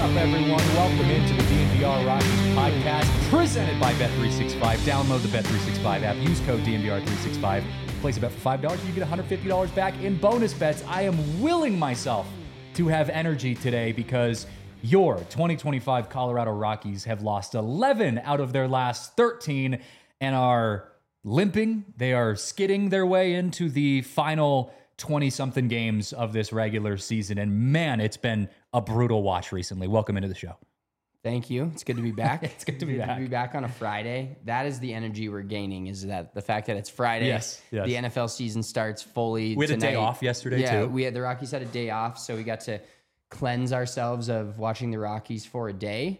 up, everyone? Welcome into the DNVR Rockies podcast presented by Bet365. Download the Bet365 app. Use code DNVR365. Place a bet for $5. You get $150 back in bonus bets. I am willing myself to have energy today because your 2025 Colorado Rockies have lost 11 out of their last 13 and are limping. They are skidding their way into the final 20-something games of this regular season. And man, it's been a brutal watch recently. Welcome into the show. Thank you. It's good to be back. It's good to be back. To be back on a Friday. That is the energy we're gaining, is that the fact that it's Friday. Yes. The NFL season starts fully We had tonight. a day off yesterday, too. The Rockies had a day off, so we got to cleanse ourselves of watching the Rockies for a day.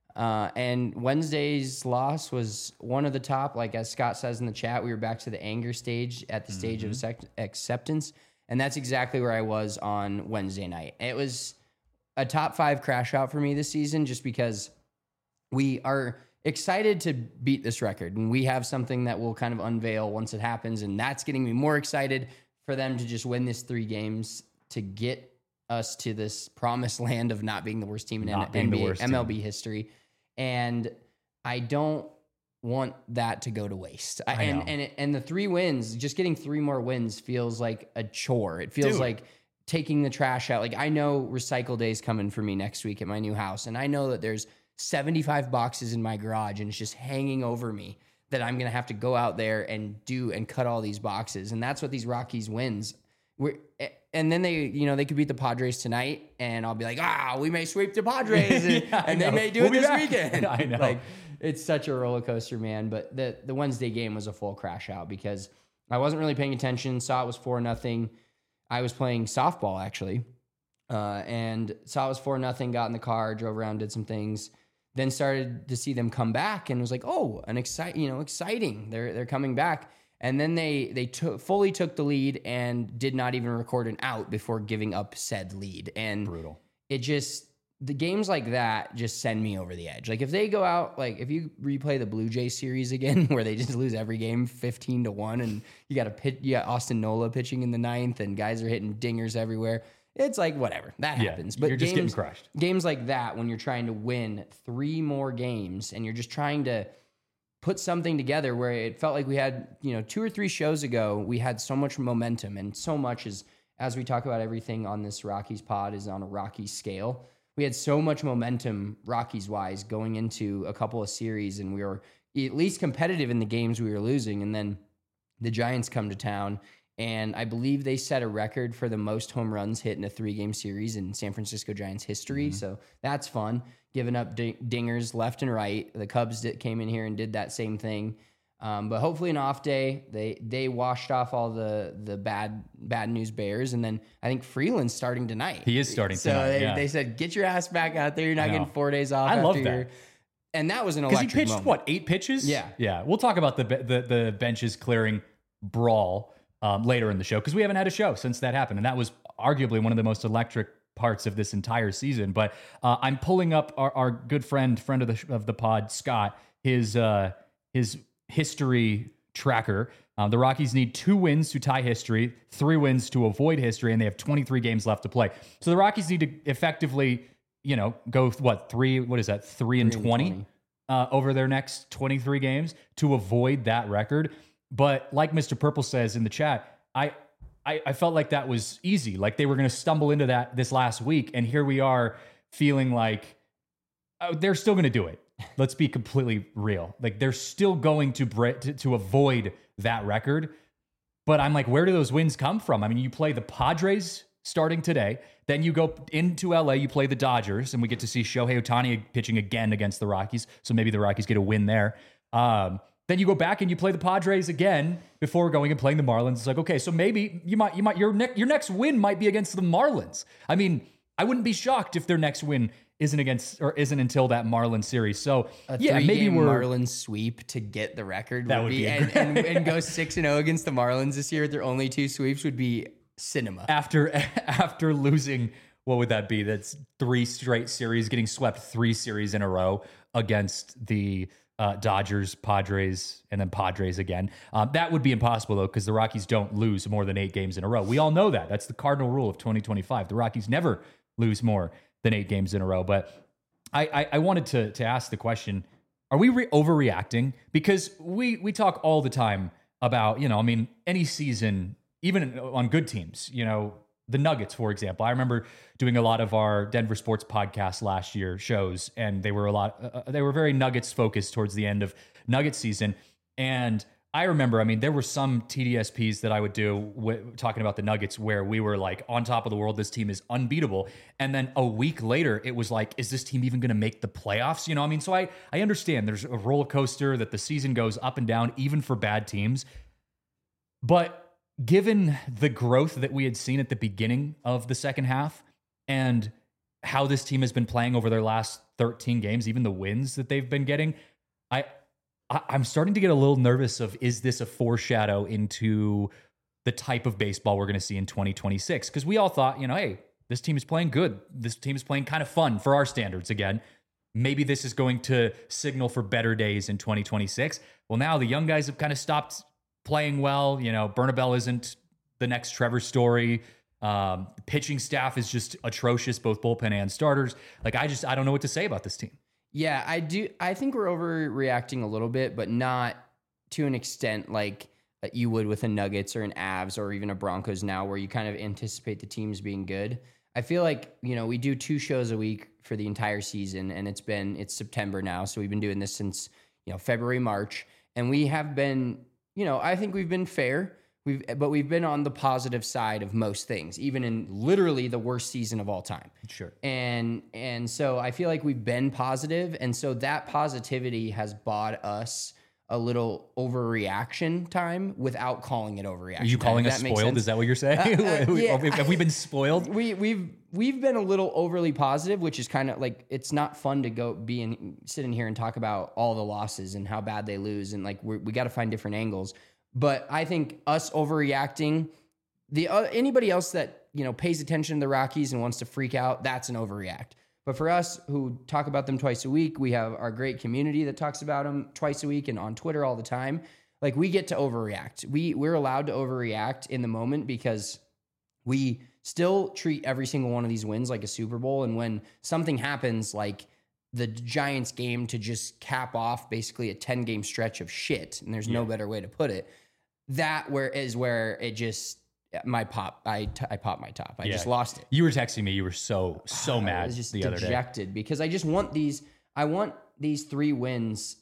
And Wednesday's loss was one of the top, like as Scott says in the chat, we were back to the anger stage at the stage of acceptance. And that's exactly where I was on Wednesday night. It was a top 5 crash out for me this season, just because we are excited to beat this record. And we have something that we'll kind of unveil once it happens. And that's getting me more excited for them to just win this 3 games to get us to this promised land of not being the worst team in MLB history. And I don't want that to go to waste. And the 3 wins, just getting 3 more wins feels like a chore. It feels like taking the trash out. Like, I know recycle day is coming for me next week at my new house. And I know that there's 75 boxes in my garage and it's just hanging over me that I'm going to have to go out there and cut all these boxes. And that's what these Rockies wins. And then they could beat the Padres tonight, and I'll be like, we may sweep the Padres, and they may do it this weekend. I know. Like, it's such a roller coaster, man. But the Wednesday game was a full crash out because I wasn't really paying attention. Saw it was 4-0. I was playing softball actually, and saw it was 4-0. Got in the car, drove around, did some things. Then started to see them come back, and was like, exciting. They're coming back. And then they fully took the lead and did not even record an out before giving up said lead. And brutal. The games like that just send me over the edge. Like, if they go out, like if you replay the Blue Jays series again, where they just lose every game 15-1, and you got Austin Nola pitching in the 9th, and guys are hitting dingers everywhere. It's like, whatever, that happens. But you're just getting crushed. Games like that, when you're trying to win 3 more games and you're just trying to put something together, where it felt like we had, 2 or 3 shows ago, we had so much momentum, and so much as we talk about everything on this Rockies pod is on a Rockies scale. We had so much momentum Rockies wise going into a couple of series, and we were at least competitive in the games we were losing. And then the Giants come to town, and I believe they set a record for the most home runs hit in a 3-game series in San Francisco Giants history. So that's fun. Giving up dingers left and right. The Cubs came in here and did that same thing. But hopefully an off day, they washed off all the bad news bears. And then I think Freeland's starting tonight. He is starting tonight. So they said, get your ass back out there. You're not getting 4 days off. I love that. And that was an electric because he pitched, moment. 8 pitches? Yeah. Yeah. We'll talk about the benches clearing brawl later in the show, because we haven't had a show since that happened. And that was arguably one of the most electric parts of this entire season. But I'm pulling up our good friend of the pod, Scott, his history tracker. The Rockies need 2 wins to tie history, 3 wins to avoid history, and they have 23 games left to play. So the Rockies need to effectively, go 3 and 20 over their next 23 games to avoid that record. But like Mr. Purple says in the chat, I felt like that was easy. Like, they were going to stumble into that this last week, and here we are feeling like they're still going to do it. Let's be completely real. Like, they're still going to avoid that record. But I'm like, where do those wins come from? I mean, you play the Padres starting today, then you go into LA, you play the Dodgers, and we get to see Shohei Ohtani pitching again against the Rockies. So maybe the Rockies get a win there. Then you go back and you play the Padres again before going and playing the Marlins. It's like, okay, so maybe your next win might be against the Marlins. I mean, I wouldn't be shocked if their next win isn't until that Marlins series. So maybe we're Marlins sweep to get the record. That would be and go 6-0 against the Marlins this year. Their only 2 sweeps would be cinema. After losing, what would that be? That's 3 straight series, getting swept 3 series in a row against the Dodgers, Padres, and then Padres again. That would be impossible, though, because the Rockies don't lose more than 8 games in a row. We all know that. That's the cardinal rule of 2025. The Rockies never lose more than 8 games in a row. But I wanted to ask the question: are we overreacting? Because we talk all the time about, I mean, any season, even on good teams, the Nuggets, for example. I remember doing a lot of our Denver Sports Podcast last year shows, and they were very Nuggets focused towards the end of Nuggets season. And I remember, I mean, there were some TDSPs that I would do talking about the Nuggets where we were like on top of the world. This team is unbeatable. And then a week later, it was like, is this team even going to make the playoffs? I mean, so I understand there's a roller coaster that the season goes up and down, even for bad teams. But given the growth that we had seen at the beginning of the second half and how this team has been playing over their last 13 games, even the wins that they've been getting, I'm starting to get a little nervous of, is this a foreshadow into the type of baseball we're going to see in 2026? Because we all thought, hey, this team is playing good. This team is playing kind of fun for our standards again. Maybe this is going to signal for better days in 2026. Well, now the young guys have kind of stopped playing well. Bernabel isn't the next Trevor Story. Pitching staff is just atrocious, both bullpen and starters. Like, I don't know what to say about this team. Yeah, I do. I think we're overreacting a little bit, but not to an extent like you would with a Nuggets or an Avs or even a Broncos now, where you kind of anticipate the teams being good. I feel like, we do 2 shows a week for the entire season, and it's September now. So we've been doing this since, February, March, and we have been, I think we've been fair. But we've been on the positive side of most things, even in literally the worst season of all time. Sure. And so I feel like we've been positive, and so that positivity has bought us a little overreaction time without calling it overreaction. Are you calling us spoiled? Is that what you're saying? Yeah. Have we been spoiled? We've been a little overly positive, which is kind of like, it's not fun to go sit in here and talk about all the losses and how bad they lose, and like we got to find different angles. But I think us overreacting, anybody else that pays attention to the Rockies and wants to freak out, that's an overreact. But for us who talk about them twice a week, we have our great community that talks about them twice a week and on Twitter all the time. Like, we get to overreact. We're allowed to overreact in the moment because we still treat every single one of these wins like a Super Bowl. And when something happens, like the Giants game to just cap off basically a 10-game stretch of shit, and there's no better way to put it, where it just I popped my top. I just lost it. You were texting me. You were so mad. I was just the other day. dejected because I just want these. I want these 3 wins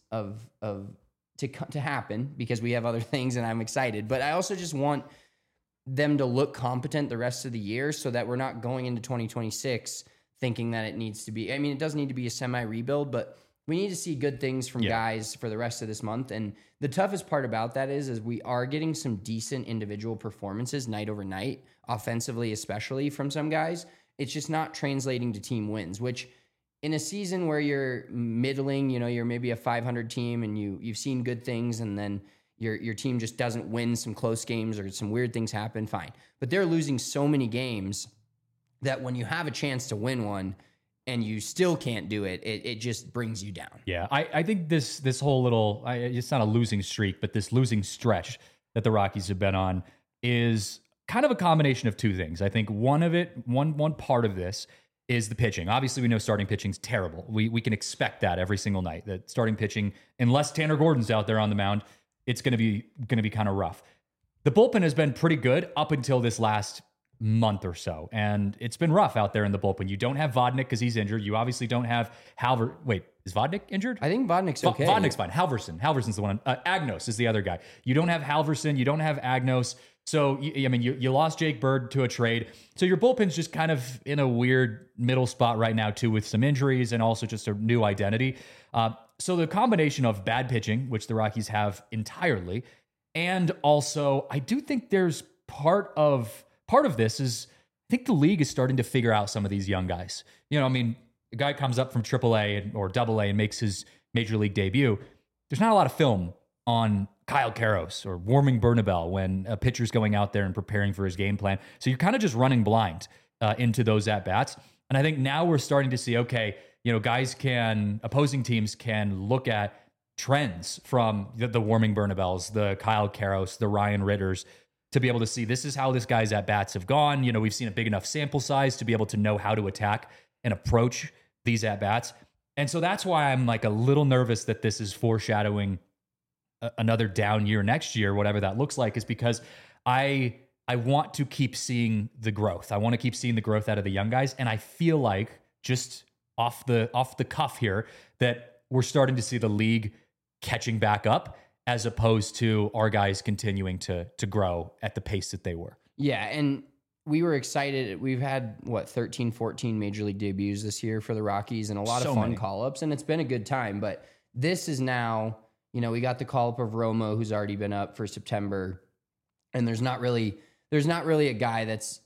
to happen because we have other things, and I'm excited. But I also just want them to look competent the rest of the year, so that we're not going into 2026 thinking that it needs to be. I mean, it doesn't need to be a semi-rebuild, but we need to see good things from guys for the rest of this month. And the toughest part about that is we are getting some decent individual performances night over night, offensively especially from some guys. It's just not translating to team wins, which in a season where you're middling, you're maybe a 500 team and you've seen good things, and then your team just doesn't win some close games or some weird things happen, fine. But they're losing so many games that when you have a chance to win one and you still can't do it, it just brings you down. Yeah, I think this whole little, it's not a losing streak, but this losing stretch that the Rockies have been on is kind of a combination of 2 things. I think one part of this is the pitching. Obviously, we know starting pitching's terrible. We can expect that every single night, that starting pitching, unless Tanner Gordon's out there on the mound, it's going to be kind of rough. The bullpen has been pretty good up until this last month or so, and it's been rough out there in the bullpen. You don't have Vodnik because he's injured. You obviously don't have Wait, is Vodnik injured? I think Vodnik's okay. Vodnik's fine. Halverson's the one. Agnos is the other guy. You don't have Halverson. You don't have Agnos. So, you lost Jake Bird to a trade. So your bullpen's just kind of in a weird middle spot right now, too, with some injuries and also just a new identity. So the combination of bad pitching, which the Rockies have entirely, and also I do think there's part of this is, I think the league is starting to figure out some of these young guys. A guy comes up from AAA or AA and makes his major league debut. There's not a lot of film on Kyle Karros or Warming Bernabel when a pitcher's going out there and preparing for his game plan. So you're kind of just running blind into those at-bats. And I think now we're starting to see, okay, opposing teams can look at trends from the Warming Bernabels, the Kyle Karros, the Ryan Ritters, to be able to see this is how this guy's at-bats have gone. We've seen a big enough sample size to be able to know how to attack and approach these at-bats. And so that's why I'm like a little nervous that this is foreshadowing another down year next year, whatever that looks like, is because I want to keep seeing the growth. I want to keep seeing the growth out of the young guys. And I feel like, just off the cuff here, that we're starting to see the league catching back up, as opposed to our guys continuing to grow at the pace that they were. Yeah, and we were excited. We've had, 13, 14 major league debuts this year for the Rockies, and a lot of fun call-ups, and it's been a good time. But this is now, we got the call-up of Romo, who's already been up for September, and there's not really a guy that's,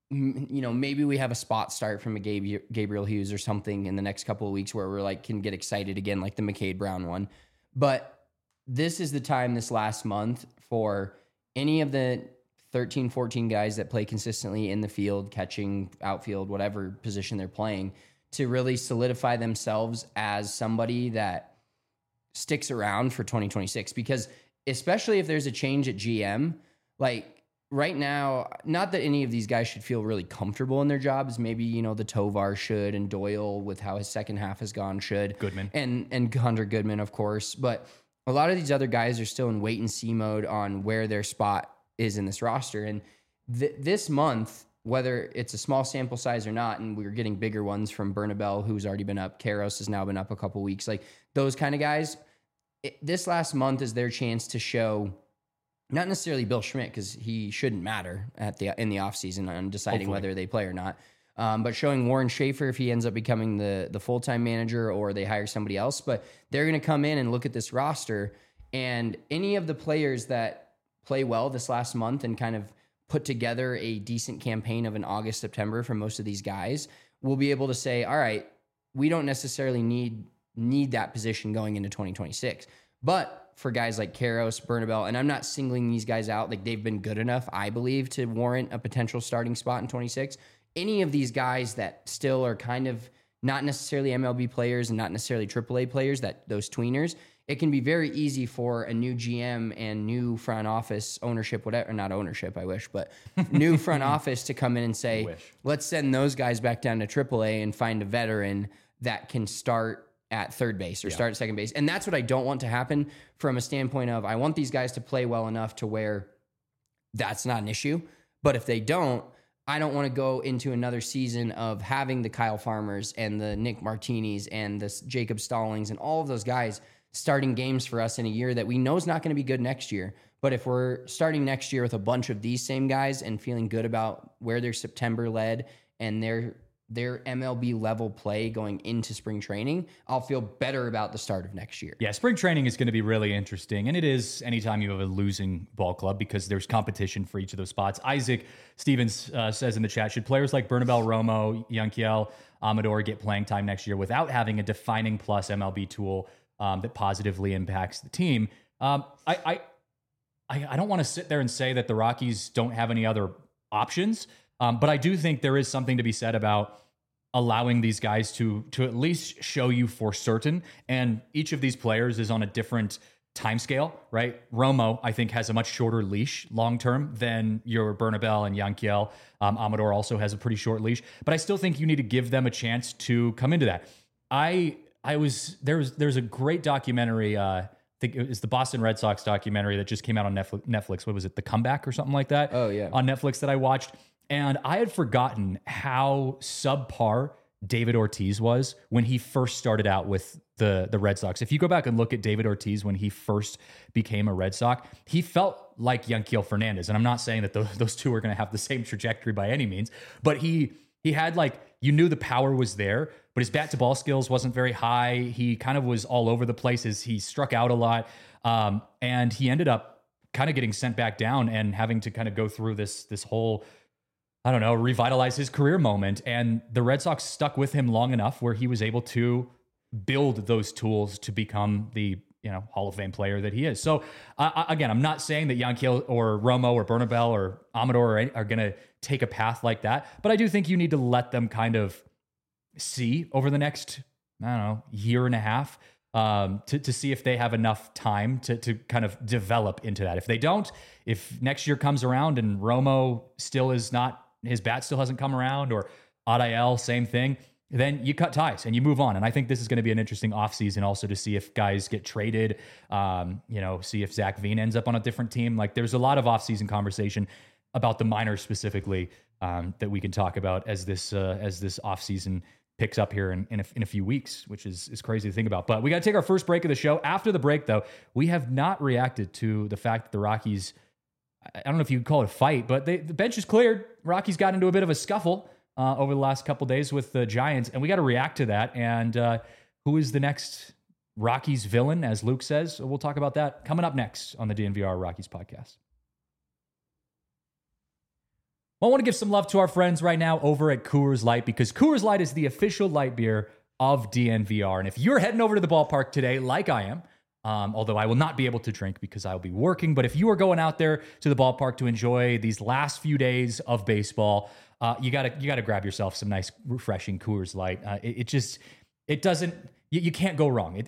maybe we have a spot start from a Gabriel Hughes or something in the next couple of weeks where we're like, can get excited again, like the McCade Brown one. But this is the time this last month for any of the 13, 14 guys that play consistently in the field, catching, outfield, whatever position they're playing, to really solidify themselves as somebody that sticks around for 2026. Because especially if there's a change at GM, like right now, not that any of these guys should feel really comfortable in their jobs. Maybe, the Tovar should, and Doyle, with how his second half has gone, should. Goodman. And Hunter Goodman, of course. But a lot of these other guys are still in wait and see mode on where their spot is in this roster. And this month, whether it's a small sample size or not, and we're getting bigger ones from Bernabel, who's already been up, Karros has now been up a couple weeks, like those kind of guys, this last month is their chance to show, not necessarily Bill Schmidt, because he shouldn't matter in the offseason on deciding whether they play or not, but showing Warren Schaefer if he ends up becoming the full-time manager or they hire somebody else. But they're going to come in and look at this roster, and any of the players that play well this last month and kind of put together a decent campaign of an August, September for most of these guys, will be able to say, all right, we don't necessarily need that position going into 2026. But for guys like Karros, Bernabel, and I'm not singling these guys out, like they've been good enough, I believe, to warrant a potential starting spot in 26. Any of these guys that still are kind of not necessarily MLB players and not necessarily AAA players, that those tweeners, it can be very easy for a new GM and new front office ownership, whatever, not ownership, I wish, but new front office to come in and say, let's send those guys back down to AAA and find a veteran that can start at third base or start at second base. And that's what I don't want to happen from a standpoint of, I want these guys to play well enough to where that's not an issue. But if they don't, I don't want to go into another season of having the Kyle Farmers and the Nick Martinis and the Jacob Stallings and all of those guys starting games for us in a year that we know is not going to be good next year. But if we're starting next year with a bunch of these same guys and feeling good about where their September led and their MLB level play going into spring training, I'll feel better about the start of next year. Yeah, spring training is going to be really interesting. And it is anytime you have a losing ball club, because there's competition for each of those spots. Isaac Stevens says in the chat, should players like Bernabel, Romo, Yanquiel, Amador get playing time next year without having a defining plus MLB tool that positively impacts the team? I don't want to sit there and say that the Rockies don't have any other options, but I do think there is something to be said about allowing these guys to at least show you for certain. And each of these players is on a different time scale, right? Romo, I think, has a much shorter leash long-term than your Bernabel and Yanquiel. Amador also has a pretty short leash, but I still think you need to give them a chance to come into that. There's a great documentary, I think it was the Boston Red Sox documentary that just came out on Netflix. What was it? The Comeback or something like that? Oh, yeah. On Netflix that I watched. And I had forgotten how subpar David Ortiz was when he first started out with the Red Sox. If you go back and look at David Ortiz when he first became a Red Sox, he felt like Yanquiel Fernandez. And I'm not saying that those two are going to have the same trajectory by any means, but he had, like, you knew the power was there, but his bat to ball skills wasn't very high. He kind of was all over the place as he struck out a lot. And he ended up kind of getting sent back down and having to kind of go through this whole, I don't know, revitalize his career moment. And the Red Sox stuck with him long enough where he was able to build those tools to become the, Hall of Fame player that he is. So again, I'm not saying that Yanquiel or Romo or Bernabel or Amador are going to take a path like that, but I do think you need to let them kind of see over the next, year and a half to see if they have enough time to kind of develop into that. If they don't, if next year comes around and Romo still is not, his bat still hasn't come around, or Adael, same thing. then you cut ties and you move on. And I think this is going to be an interesting offseason also to see if guys get traded, see if Zach Veen ends up on a different team. Like there's a lot of offseason conversation about the minors specifically that we can talk about as this offseason picks up here in a few weeks, which is crazy to think about. But we got to take our first break of the show. After the break, though, we have not reacted to the fact that the Rockies, I don't know if you could call it a fight, but the bench is cleared. Rockies got into a bit of a scuffle over the last couple days with the Giants, and we got to react to that. And who is the next Rockies villain, as Luke says? We'll talk about that coming up next on the DNVR Rockies podcast. Well, I want to give some love to our friends right now over at Coors Light, because Coors Light is the official light beer of DNVR. And if you're heading over to the ballpark today, like I am, although I will not be able to drink because I'll be working, but if you are going out there to the ballpark to enjoy these last few days of baseball, you gotta grab yourself some nice, refreshing Coors Light. It doesn't. You can't go wrong.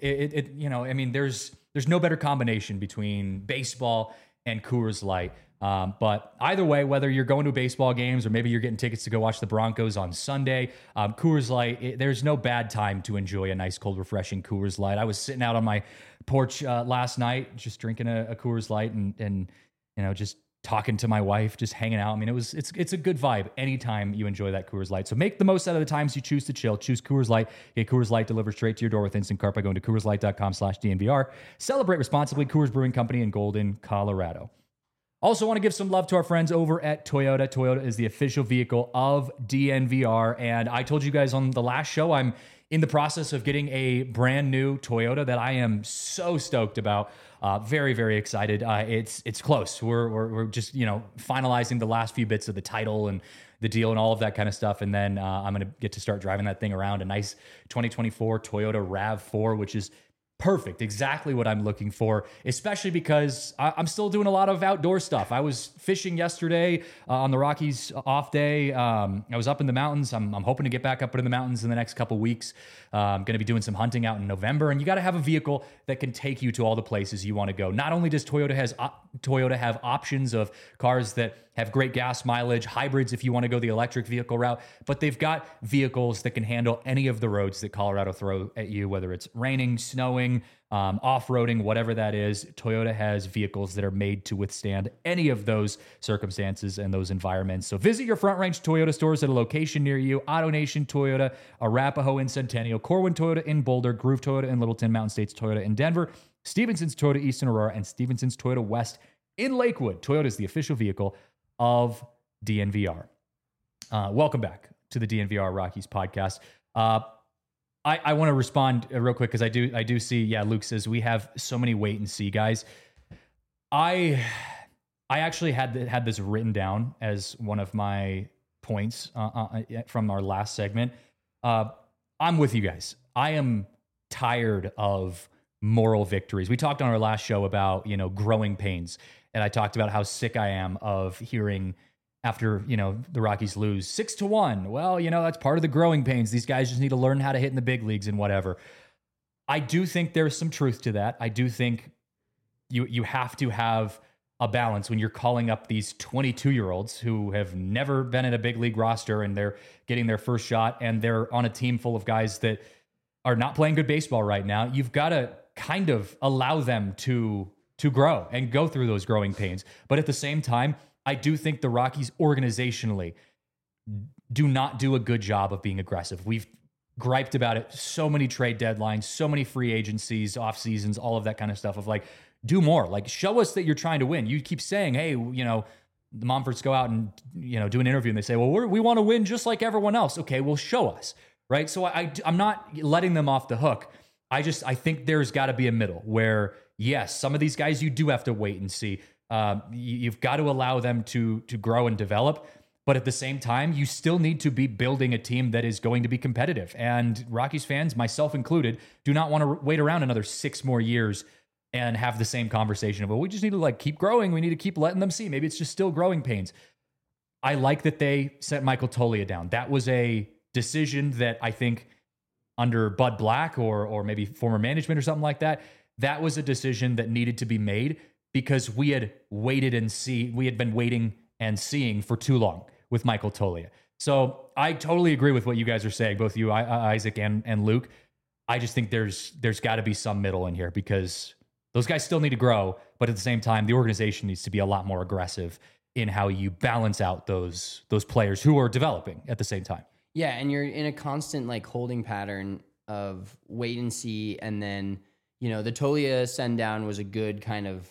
There's no better combination between baseball and Coors Light. But either way, whether you're going to baseball games or maybe you're getting tickets to go watch the Broncos on Sunday, Coors Light, there's no bad time to enjoy a nice, cold, refreshing Coors Light. I was sitting out on my porch last night, just drinking a Coors Light and just talking to my wife, just hanging out. I mean, it's a good vibe anytime you enjoy that Coors Light. So make the most out of the times you choose to chill. Choose Coors Light. Get Coors Light delivered straight to your door with Instant Cart by going to CoorsLight.com/DNVR. Celebrate responsibly. Coors Brewing Company in Golden, Colorado. Also want to give some love to our friends over at Toyota. Toyota is the official vehicle of DNVR. And I told you guys on the last show, I'm in the process of getting a brand new Toyota that I am so stoked about. Very, very excited. It's close. We're just, finalizing the last few bits of the title and the deal and all of that kind of stuff. And then I'm going to get to start driving that thing around. A nice 2024 Toyota RAV4, which is perfect. Exactly what I'm looking for, especially because I'm still doing a lot of outdoor stuff. I was fishing yesterday on the Rockies off day. I was up in the mountains. I'm hoping to get back up in the mountains in the next couple weeks. I'm going to be doing some hunting out in November, and you got to have a vehicle that can take you to all the places you want to go. Not only does Toyota have options of cars that have great gas mileage, hybrids if you want to go the electric vehicle route, but they've got vehicles that can handle any of the roads that Colorado throw at you, whether it's raining, snowing, off-roading, whatever that is. Toyota has vehicles that are made to withstand any of those circumstances and those environments. So visit your Front Range Toyota stores at a location near you. AutoNation Toyota, Arapahoe in Centennial, Corwin Toyota in Boulder, Groove Toyota in Littleton, Mountain States Toyota in Denver, Stevenson's Toyota East in Aurora, and Stevenson's Toyota West in Lakewood. Toyota is the official vehicle of DNVR. Welcome back to the DNVR Rockies podcast. I want to respond real quick because I do see, Luke says we have so many wait and see guys. I actually had this written down as one of my points from our last segment. I'm with you guys. I am tired of moral victories. We talked on our last show about, growing pains. And I talked about how sick I am of hearing after, the Rockies lose 6-1. Well, that's part of the growing pains. These guys just need to learn how to hit in the big leagues and whatever. I do think there's some truth to that. I do think you have to have a balance when you're calling up these 22-year-olds who have never been in a big league roster and they're getting their first shot and they're on a team full of guys that are not playing good baseball right now. You've got to kind of allow them to grow and go through those growing pains. But at the same time, I do think the Rockies organizationally do not do a good job of being aggressive. We've griped about it. So many trade deadlines, so many free agencies, off seasons, all of that kind of stuff of like, do more. Like, show us that you're trying to win. You keep saying, hey, the Monforts go out and, do an interview and they say, well, we want to win just like everyone else. Okay, well, show us. Right. So I'm not letting them off the hook. I think there's got to be a middle where, yes, some of these guys you do have to wait and see. You've got to allow them to grow and develop. But at the same time, you still need to be building a team that is going to be competitive. And Rockies fans, myself included, do not want to wait around another 6 more years and have the same conversation of, well, we just need to keep growing. We need to keep letting them see. Maybe it's just still growing pains. I like that they sent Michael Toglia down. That was a decision that I think under Bud Black or maybe former management or something like that, that was a decision that needed to be made because we had been waiting and seeing for too long with Michael Toglia. So I totally agree with what you guys are saying, both you, Isaac, and Luke. I just think there's got to be some middle in here because those guys still need to grow, but at the same time, the organization needs to be a lot more aggressive in how you balance out those players who are developing at the same time. Yeah, and you're in a constant like holding pattern of wait and see, and then the Tolia send down was a good kind of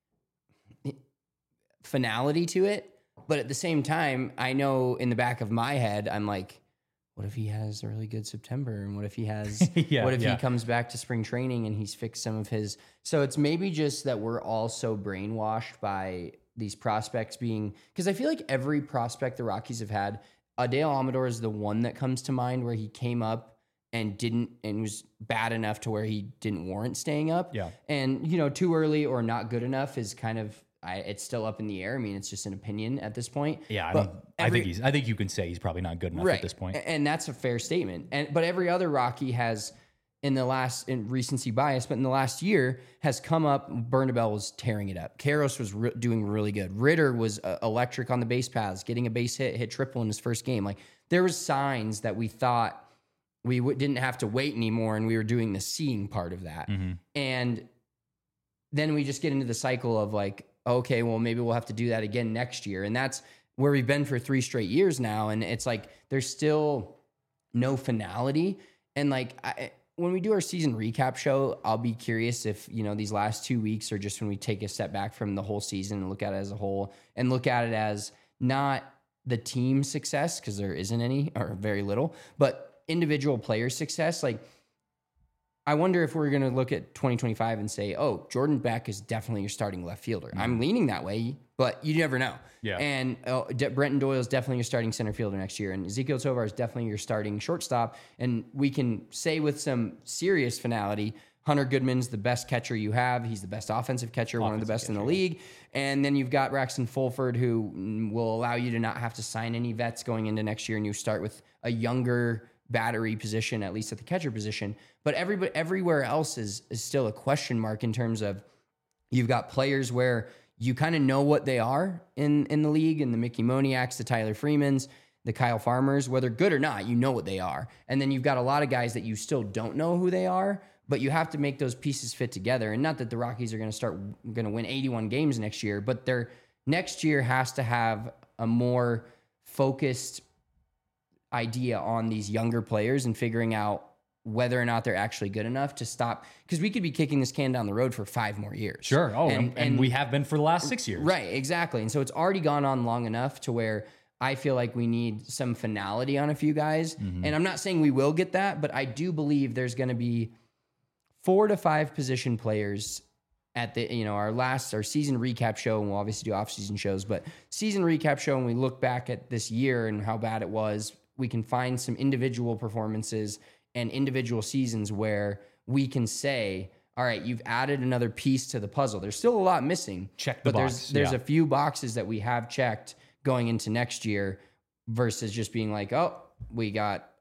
finality to it. But at the same time, I know in the back of my head, I'm like, what if he has a really good September? And what if he has, what if he comes back to spring training and he's fixed some of his, so it's maybe just that we're all so brainwashed by these prospects being, because I feel like every prospect the Rockies have had, Dale Amador is the one that comes to mind where he came up and was bad enough to where he didn't warrant staying up. Yeah. And, too early or not good enough is kind of, it's still up in the air. I mean, it's just an opinion at this point. Yeah, I think you can say he's probably not good enough at this point. And that's a fair statement. But every other Rocky has, in recency bias, but in the last year has come up. Bernabel was tearing it up. Karros was doing really good. Ritter was electric on the base paths, getting a base hit triple in his first game. Like there was signs that we thought we didn't have to wait anymore, and we were doing the seeing part of that. Mm-hmm. And then we just get into the cycle of like, okay, well, maybe we'll have to do that again next year. And that's where we've been for 3 straight years now. And it's like, there's still no finality. And like, when we do our season recap show, I'll be curious if, these last 2 weeks are just when we take a step back from the whole season and look at it as a whole and look at it as not the team success, because there isn't any or very little, but individual player success. Like, I wonder if we're going to look at 2025 and say, oh, Jordan Beck is definitely your starting left fielder. Mm-hmm. I'm leaning that way, but you never know. Yeah. And Brenton Doyle is definitely your starting center fielder next year. And Ezekiel Tovar is definitely your starting shortstop. And we can say with some serious finality, Hunter Goodman's the best catcher you have. He's the best offensive catcher, one of the best in the league. And then you've got Braxton Fulford, who will allow you to not have to sign any vets going into next year. And you start with a younger battery position, at least at the catcher position. But everywhere else is still a question mark in terms of you've got players where you kind of know what they are in the league, and the Mickey Moniaks, the Tyler Freemans, the Kyle Farmers, whether good or not, you know what they are. And then you've got a lot of guys that you still don't know who they are, but you have to make those pieces fit together. And not that the Rockies are going to win 81 games next year, but their next year has to have a more focused idea on these younger players and figuring out whether or not they're actually good enough to stop, because we could be kicking this can down the road for 5 more years. Sure. Oh, and we have been for the last 6 years. Right, exactly. And so it's already gone on long enough to where I feel like we need some finality on a few guys. Mm-hmm. And I'm not saying we will get that, but I do believe there's going to be 4 to 5 position players at the, our season recap show, and we'll obviously do off-season shows, but season recap show, and we look back at this year and how bad it was, we can find some individual performances and individual seasons where we can say, all right, you've added another piece to the puzzle. There's still a lot missing. Check the box. There's a few boxes that we have checked going into next year versus just being like, oh, we got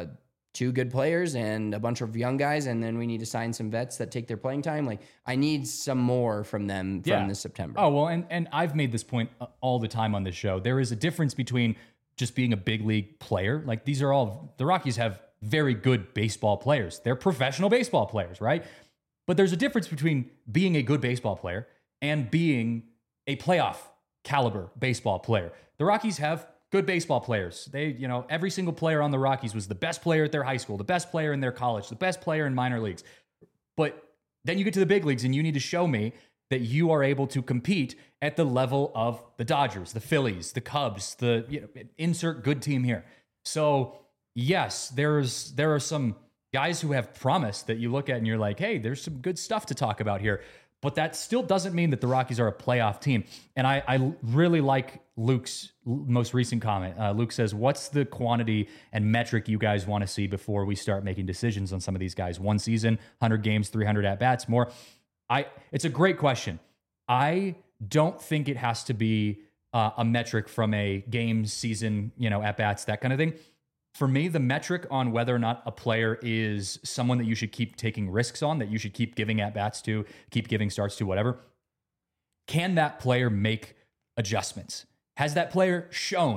2 good players and a bunch of young guys, and then we need to sign some vets that take their playing time. Like, I need some more from them from this September. Oh, well, and I've made this point all the time on this show. There is a difference between just being a big league player. Like, the Rockies have very good baseball players. They're professional baseball players, right? But there's a difference between being a good baseball player and being a playoff caliber baseball player. The Rockies have good baseball players. They, every single player on the Rockies was the best player at their high school, the best player in their college, the best player in minor leagues. But then you get to the big leagues and you need to show me that you are able to compete at the level of the Dodgers, the Phillies, the Cubs, insert good team here. So yes, there are some guys who have promise that you look at and you're like, hey, there's some good stuff to talk about here. But that still doesn't mean that the Rockies are a playoff team. And I really like Luke's most recent comment. Luke says, what's the quantity and metric you guys want to see before we start making decisions on some of these guys? 1 season, 100 games, 300 at-bats, more? It's a great question. I don't think it has to be a metric from a game, season, at-bats, that kind of thing. For me, the metric on whether or not a player is someone that you should keep taking risks on, that you should keep giving at-bats to, keep giving starts to, whatever, can that player make adjustments? Has that player shown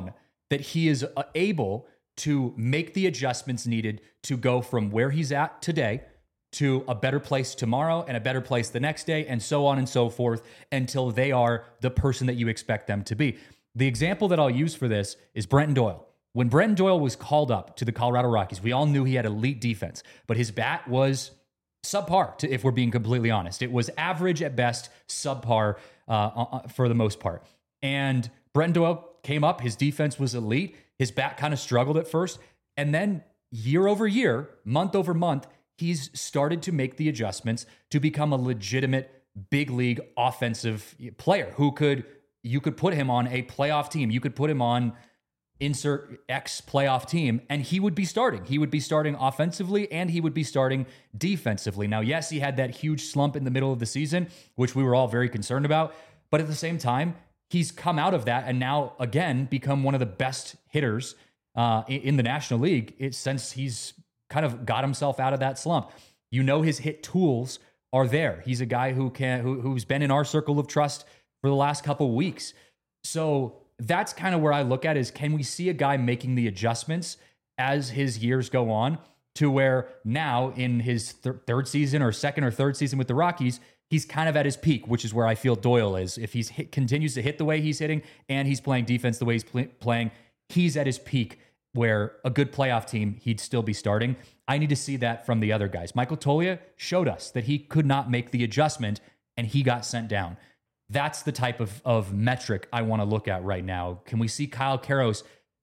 that he is able to make the adjustments needed to go from where he's at today to a better place tomorrow and a better place the next day, and so on and so forth, until they are the person that you expect them to be. The example that I'll use for this is Brenton Doyle. When Brenton Doyle was called up to the Colorado Rockies, we all knew he had elite defense, but his bat was subpar, if we're being completely honest. It was average at best, subpar for the most part. And Brenton Doyle came up, his defense was elite, his bat kind of struggled at first, and then year over year, month over month, he's started to make the adjustments to become a legitimate big league offensive player you could put him on a playoff team. You could put him on insert X playoff team and he would be starting. He would be starting offensively and he would be starting defensively. Now, yes, he had that huge slump in the middle of the season, which we were all very concerned about. But at the same time, he's come out of that and now again become one of the best hitters in the National League since he's kind of got himself out of that slump. You know, his hit tools are there. He's a guy who's been in our circle of trust for the last couple of weeks. So that's kind of where I look at is, can we see a guy making the adjustments as his years go on to where now in his third season or second or third season with the Rockies, he's kind of at his peak, which is where I feel Doyle is. If he's continues to hit the way he's hitting and he's playing defense the way he's playing, he's at his peak where a good playoff team, he'd still be starting. I need to see that from the other guys. Michael Toglia showed us that he could not make the adjustment and he got sent down. That's the type of metric I want to look at right now. Can we see Kyle Karros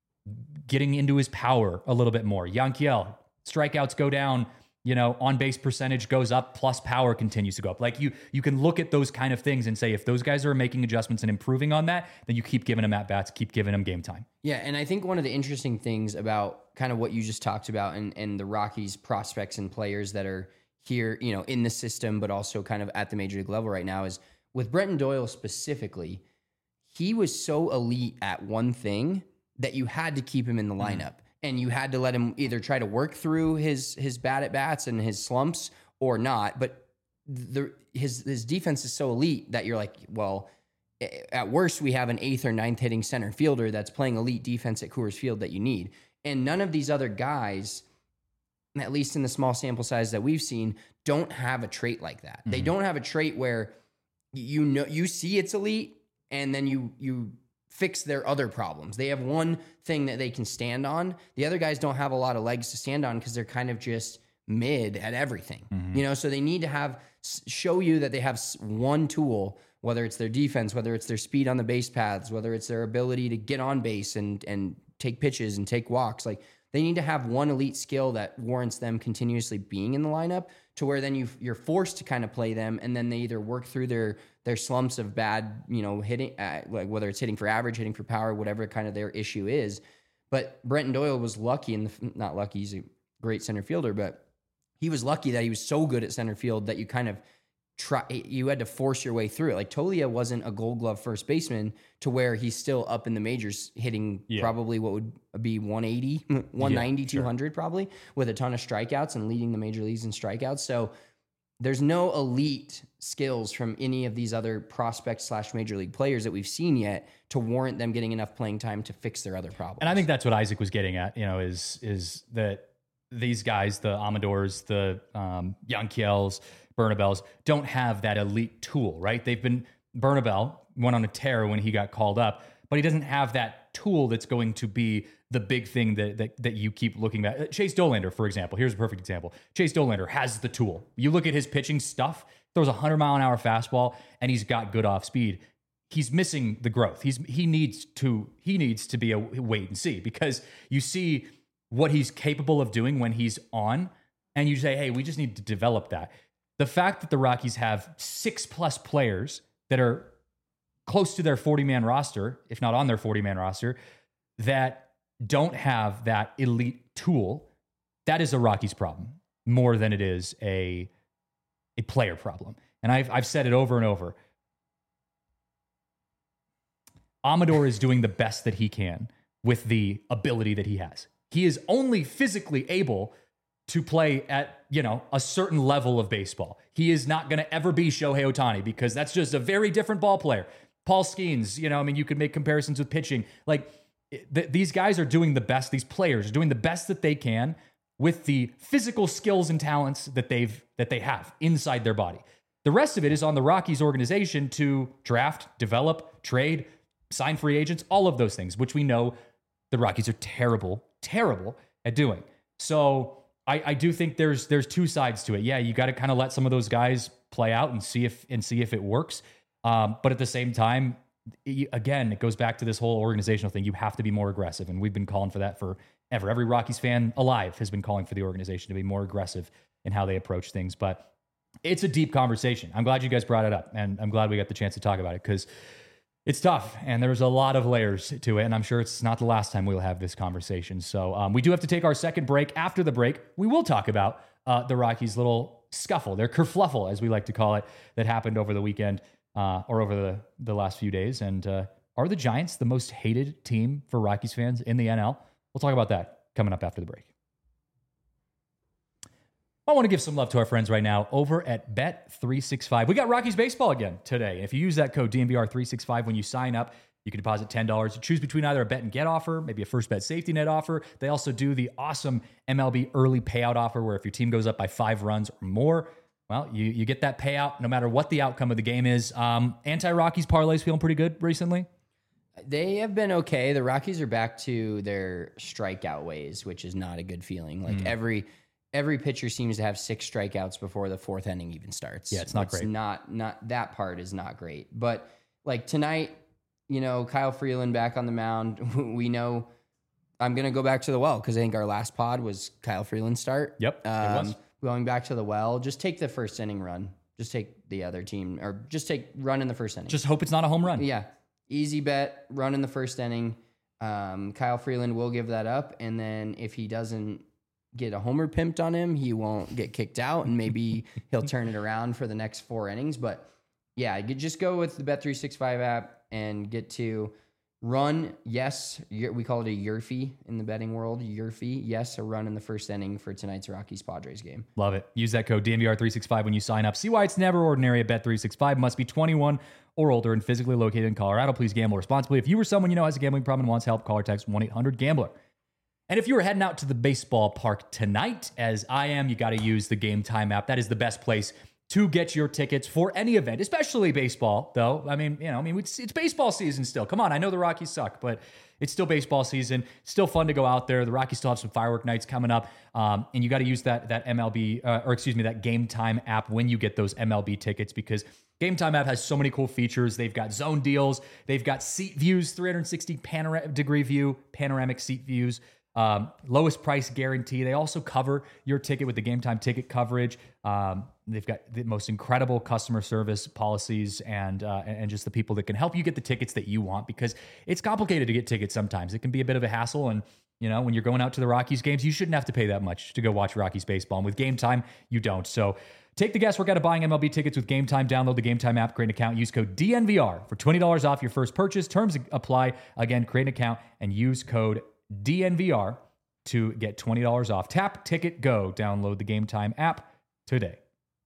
getting into his power a little bit more? Yanquiel, strikeouts go down, on base percentage goes up, plus power continues to go up. Like you can look at those kind of things and say, if those guys are making adjustments and improving on that, then you keep giving them at bats, keep giving them game time. Yeah, and I think one of the interesting things about kind of what you just talked about and the Rockies prospects and players that are here, in the system, but also kind of at the major league level right now is with Brenton Doyle specifically, he was so elite at one thing that you had to keep him in the lineup. And you had to let him either try to work through his bad at bats and his slumps or not. But his defense is so elite that you're like, well, at worst, we have an 8th or 9th hitting center fielder that's playing elite defense at Coors Field that you need. And none of these other guys, at least in the small sample size that we've seen, don't have a trait like that. They don't have a trait where you see it's elite and then you fix their other problems. They have one thing that they can stand on. The other guys don't have a lot of legs to stand on because they're kind of just mid at everything. So they need to show you that they have one tool, whether it's their defense, whether it's their speed on the base paths, whether it's their ability to get on base and take pitches and take walks. Like, they need to have one elite skill that warrants them continuously being in the lineup, to where then you're forced to kind of play them, and then they either work through their slumps of bad, hitting, like whether it's hitting for average, hitting for power, whatever kind of their issue is. But Brenton Doyle was lucky, not lucky, he's a great center fielder, but he was lucky that he was so good at center field that you kind of you had to force your way through it. Like, Toglia wasn't a Gold Glove first baseman to where he's still up in the majors hitting probably what would be 180, 190, 200 probably, with a ton of strikeouts and leading the major leagues in strikeouts. So there's no elite skills from any of these other prospects / major league players that we've seen yet to warrant them getting enough playing time to fix their other problems. And I think that's what Isaac was getting at, is that these guys, the Amadors, the Yanquiels, Bernabels, don't have that elite tool, right? Bernabel went on a tear when he got called up, but he doesn't have that tool that's going to be the big thing that you keep looking at. Chase Dollander, for example, here's a perfect example. Chase Dollander has the tool. You look at his pitching stuff, throws a 100-mile-an-hour fastball, and he's got good off speed. He's missing the growth. He needs to be a wait and see, because you see what he's capable of doing when he's on, and you say, hey, we just need to develop that. The fact that the Rockies have 6+ players that are close to their 40-man roster, if not on their 40-man roster, that don't have that elite tool, that is a Rockies problem more than it is a player problem. And I've said it over and over. Amador is doing the best that he can with the ability that he has. He is only physically able to play at, a certain level of baseball. He is not going to ever be Shohei Ohtani, because that's just a very different ball player. Paul Skeens, you could make comparisons with pitching. Like, these guys are doing the best. These players are doing the best that they can with the physical skills and talents that they have inside their body. The rest of it is on the Rockies organization to draft, develop, trade, sign free agents, all of those things, which we know the Rockies are terrible at doing. So I do think there's two sides to it. Yeah, you got to kind of let some of those guys play out and see if it works. But at the same time, again, it goes back to this whole organizational thing. You have to be more aggressive, and we've been calling for that forever. Every Rockies fan alive has been calling for the organization to be more aggressive in how they approach things. But it's a deep conversation. I'm glad you guys brought it up, and I'm glad we got the chance to talk about it because it's tough, and there's a lot of layers to it, and I'm sure it's not the last time we'll have this conversation. So we do have to take our second break. After the break, we will talk about the Rockies' little scuffle, their kerfluffle, as we like to call it, that happened over the weekend or over the last few days. And are the Giants the most hated team for Rockies fans in the NL? We'll talk about that coming up after the break. I want to give some love to our friends right now over at Bet365. We got Rockies baseball again today. If you use that code DNVR365 when you sign up, you can deposit $10. Choose between either a bet and get offer, maybe a first bet safety net offer. They also do the awesome MLB early payout offer where if your team goes up by 5 runs or more, well, you get that payout no matter what the outcome of the game is. Anti-Rockies parlays feeling pretty good recently? They have been okay. The Rockies are back to their strikeout ways, which is not a good feeling. Like every pitcher seems to have 6 strikeouts before the 4th inning even starts. Yeah, it's not great. Not that part is not great. But like tonight, Kyle Freeland back on the mound. We know I'm going to go back to the well because I think our last pod was Kyle Freeland's start. Yep, it was. Going back to the well, just take the first inning run. Just take the other team, or just take run in the first inning. Just hope it's not a home run. Yeah. Easy bet, run in the first inning. Kyle Freeland will give that up. And then if he doesn't get a homer pimped on him, he won't get kicked out, and maybe he'll turn it around for the next 4 innings. But yeah, you just go with the Bet365 app and get to run. Yes, we call it a Yerfie in the betting world. Yerfie, yes, a run in the first inning for tonight's Rockies-Padres game. Love it. Use that code DNVR365 when you sign up. See why it's never ordinary at Bet365. Must be 21 or older and physically located in Colorado. Please gamble responsibly. If you or someone you know has a gambling problem and wants help, call or text 1-800-GAMBLER. And if you were heading out to the baseball park tonight, as I am, you got to use the Game Time app. That is the best place to get your tickets for any event, especially baseball, though. It's baseball season still. Come on, I know the Rockies suck, but it's still baseball season. Still fun to go out there. The Rockies still have some firework nights coming up, and you got to use that that Game Time app when you get those MLB tickets, because Game Time app has so many cool features. They've got zone deals. They've got seat views, 360 degree view, panoramic seat views. Lowest price guarantee. They also cover your ticket with the Game Time ticket coverage. They've got the most incredible customer service policies and just the people that can help you get the tickets that you want, because it's complicated to get tickets sometimes. It can be a bit of a hassle, and when you're going out to the Rockies games, you shouldn't have to pay that much to go watch Rockies baseball. And with Game Time, you don't. So take the guesswork out of buying MLB tickets with Game Time. Download the Game Time app, create an account, use code DNVR for $20 off your first purchase. Terms apply. Again, create an account and use code DNVR to get $20 off. Tap, ticket, go. Download the Game Time app today.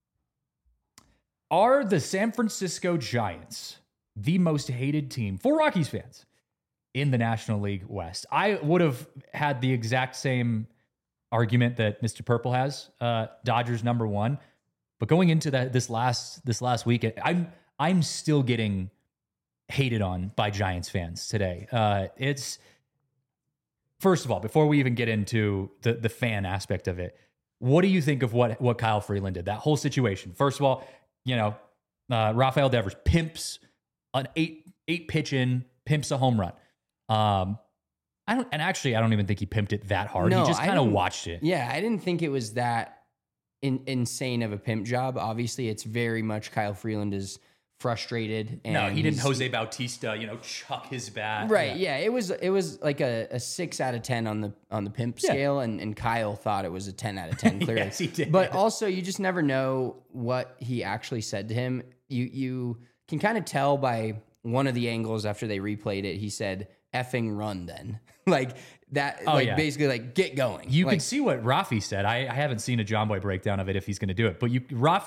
Are the San Francisco Giants the most hated team for Rockies fans in the National League West? I would have had the exact same argument that Mr. Purple has. Dodgers number 1. But going into this last week, I'm still getting hated on by Giants fans today. It's first of all, before we even get into the fan aspect of it, what do you think of what Kyle Freeland did? That whole situation. First of all, Rafael Devers pimps an eight pitch in, pimps a home run. I don't even think he pimped it that hard. No, he just kind of watched it. Yeah, I didn't think it was that insane of a pimp job. Obviously, it's very much Kyle Freeland is frustrated. And no, he didn't Jose Bautista, chuck his bat. Right. Yeah. It was like a 6 out of 10 on the pimp scale, and Kyle thought it was a 10 out of 10 clearly. Yes, he did. But also, you just never know what he actually said to him. You can kind of tell by one of the angles after they replayed it. He said, "Effing run then." Like that, basically like get going. You can see what Rafi said. I haven't seen a John Boy breakdown of it if he's going to do it, but Rafi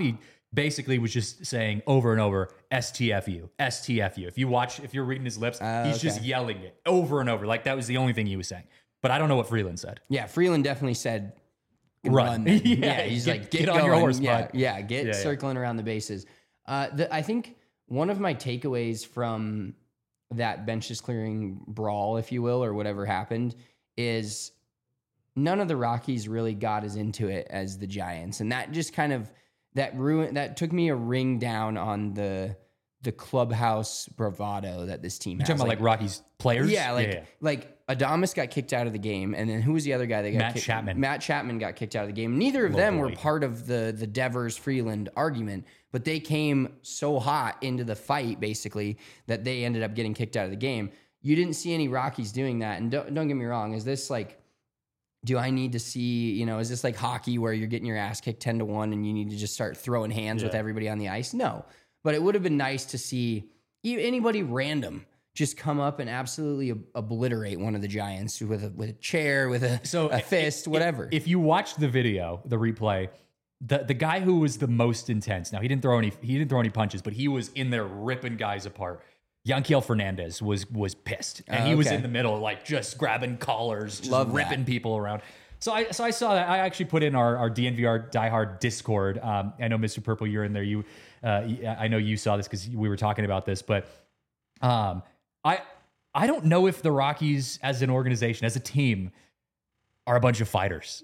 basically was just saying over and over, STFU, STFU. If you're reading his lips, he's just yelling it over and over. Like that was the only thing he was saying. But I don't know what Freeland said. Yeah, Freeland definitely said run. Yeah, he's get on going. your horse, yeah, bud. yeah, get circling around the bases. I think one of my takeaways from that benches clearing brawl, if you will, or whatever happened, is none of the Rockies really got as into it as the Giants, and that just kind of that took me a ring down on the clubhouse bravado that this team has. You're talking about like Rockies players? Yeah, like Adames got kicked out of the game, and then who was the other guy that got Matt kicked? Chapman. Matt Chapman got kicked out of the game. Neither of them were part of the Devers Freeland argument, but they came so hot into the fight basically that they ended up getting kicked out of the game. You didn't see any Rockies doing that, and don't get me wrong. Is this like? Do I need to see, is this like hockey where you're getting your ass kicked 10-1 and you need to just start throwing hands with everybody on the ice? No. But it would have been nice to see anybody random just come up and absolutely obliterate one of the Giants with a chair, with a fist, whatever. If you watch the video, the replay, the guy who was the most intense, now he didn't throw any punches, but he was in there ripping guys apart. Yanquiel Fernandez was pissed, and he was in the middle, like just grabbing collars, just ripping people around. So I saw that. I actually put in our DNVR diehard Discord. I know Mr. Purple, you're in there. I know you saw this because we were talking about this, but I don't know if the Rockies as an organization, as a team, are a bunch of fighters.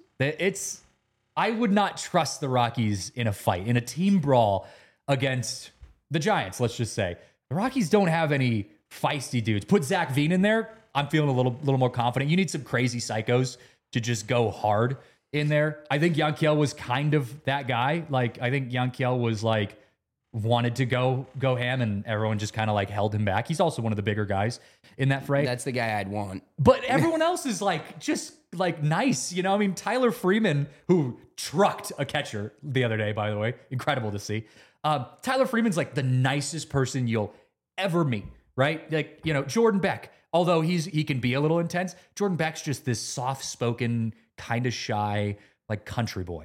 I would not trust the Rockies in a fight, in a team brawl against the Giants. Let's just say. The Rockies don't have any feisty dudes. Put Zach Veen in there, I'm feeling a little more confident. You need some crazy psychos to just go hard in there. I think Yanquiel was kind of that guy. Like, I think Yanquiel was like, wanted to go ham, and everyone just kind of like held him back. He's also one of the bigger guys in that fray. That's the guy I'd want. But everyone else is like, just like nice. I mean, Tyler Freeman, who trucked a catcher the other day, by the way, incredible to see. Tyler Freeman's like the nicest person you'll ever meet, right? Like, Jordan Beck, although he can be a little intense, Jordan Beck's just this soft-spoken, kind of shy, like country boy,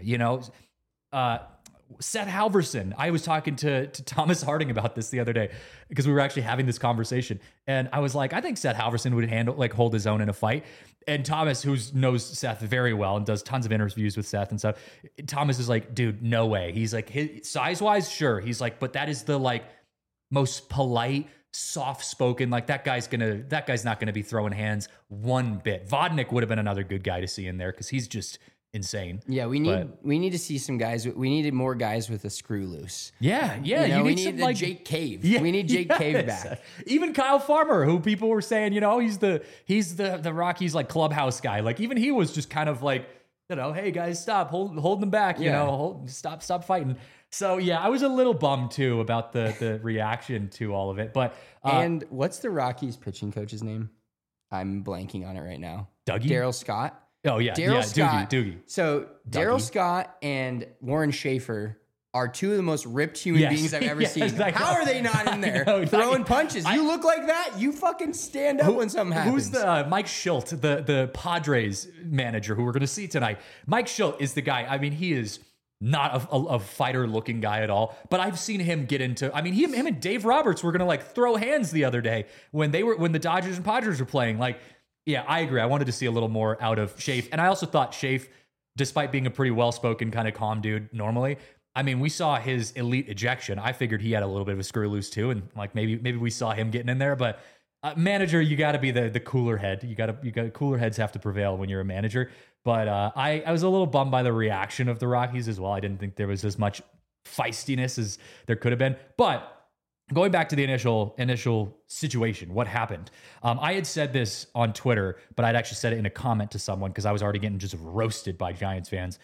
Seth Halverson. I was talking to Thomas Harding about this the other day because we were actually having this conversation. And I was like, I think Seth Halverson would hold his own in a fight. And Thomas, who knows Seth very well and does tons of interviews with Seth and stuff, Thomas is like, dude, no way. He's like, size-wise, sure. He's like, but that is the like most polite, soft-spoken, like that guy's not gonna be throwing hands one bit. Vodnik would have been another good guy to see in there because he's just insane. Yeah, we need to see some guys. We needed more guys with a screw loose. Yeah. We need like Jake Cave. Yeah, we need Jake Cave back. Even Kyle Farmer, who people were saying, he's the Rockies like clubhouse guy. Like even he was just kind of like, hey guys, stop, hold them back. Stop fighting. So yeah, I was a little bummed too about the reaction to all of it. But and what's the Rockies pitching coach's name? I'm blanking on it right now. Dougie? Daryl Scott. Oh yeah, Daryl Scott. Doogie. So Daryl Scott and Warren Schaefer are two of the most ripped human beings I've ever seen. How are they not in there throwing punches? You look like that. You fucking stand up when something happens. Who's the Mike Schilt, the Padres manager who we're going to see tonight? Mike Schilt is the guy. I mean, he is not a fighter-looking guy at all, but I've seen him get into. I mean, him and Dave Roberts were going to like throw hands the other day when the Dodgers and Padres were playing. Like, yeah, I agree. I wanted to see a little more out of Schaefer, and I also thought Schaefer, despite being a pretty well-spoken kind of calm dude normally. I mean, we saw his elite ejection. I figured he had a little bit of a screw loose too, and like maybe we saw him getting in there. But manager, you got to be the cooler head. You got cooler heads have to prevail when you're a manager. But I was a little bummed by the reaction of the Rockies as well. I didn't think there was as much feistiness as there could have been. But going back to the initial situation, what happened? I had said this on Twitter, but I'd actually said it in a comment to someone because I was already getting just roasted by Giants fans.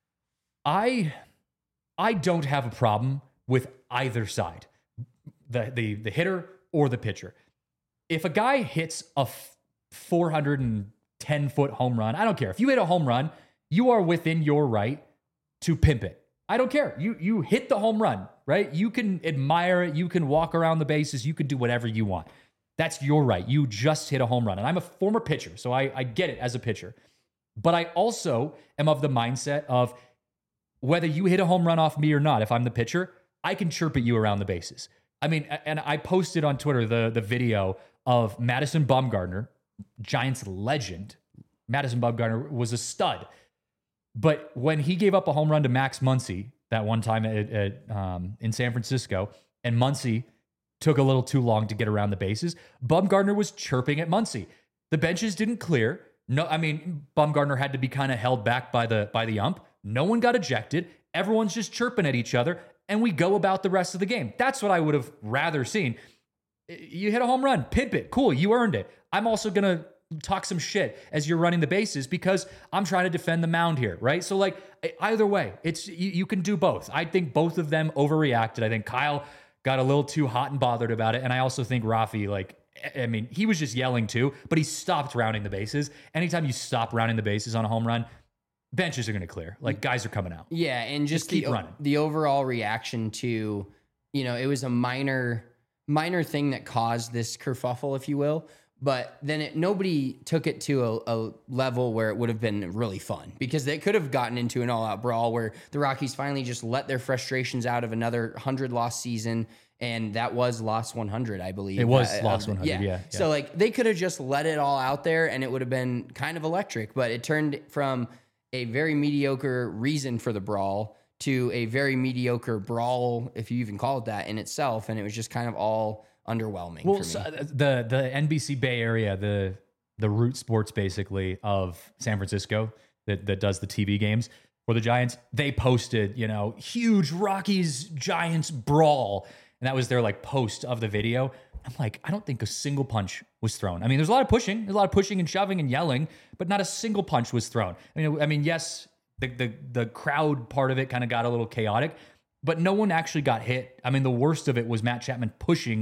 I don't have a problem with either side, the hitter or the pitcher. If a guy hits a 410-foot home run, I don't care. If you hit a home run, you are within your right to pimp it. I don't care. You hit the home run, right? You can admire it. You can walk around the bases. You can do whatever you want. That's your right. You just hit a home run. And I'm a former pitcher, so I get it as a pitcher. But I also am of the mindset of whether you hit a home run off me or not, if I'm the pitcher, I can chirp at you around the bases. I mean, and I posted on Twitter the video of Madison Bumgarner, Giants legend. Madison Bumgarner was a stud. But when he gave up a home run to Max Muncy that one time in San Francisco, and Muncy took a little too long to get around the bases, Bumgarner was chirping at Muncy. The benches didn't clear. No, I mean, Bumgarner had to be kind of held back by the ump. No one got ejected. Everyone's just chirping at each other, and we go about the rest of the game. That's what I would have rather seen. You hit a home run, pimp it, cool, you earned it. I'm also gonna talk some shit as you're running the bases because I'm trying to defend the mound here, right? So like either way, it's you can do both. I think both of them overreacted. I think Kyle got a little too hot and bothered about it, and I also think Rafi, like, I mean, he was just yelling too, but he stopped rounding the bases. Anytime you stop rounding the bases on a home run, benches are going to clear. Like, guys are coming out. Yeah, and just keep running. The overall reaction to, it was a minor thing that caused this kerfuffle, if you will. But then nobody took it to a level where it would have been really fun, because they could have gotten into an all-out brawl where the Rockies finally just let their frustrations out of another 100-loss season, and that was loss 100, I believe. It was loss 100, yeah. So, like, they could have just let it all out there, and it would have been kind of electric. But it turned from a very mediocre reason for the brawl to a very mediocre brawl, if you even call it that, in itself, and it was just kind of all underwhelming for me. So the NBC Bay Area, the root sports basically of San Francisco that does the TV games for the Giants, they posted, huge Rockies Giants brawl, and that was their like post of the video. I'm like, I don't think a single punch was thrown. I mean, there's a lot of pushing and shoving and yelling, but not a single punch was thrown. I mean, yes, the crowd part of it kind of got a little chaotic, but no one actually got hit. I mean, the worst of it was Matt Chapman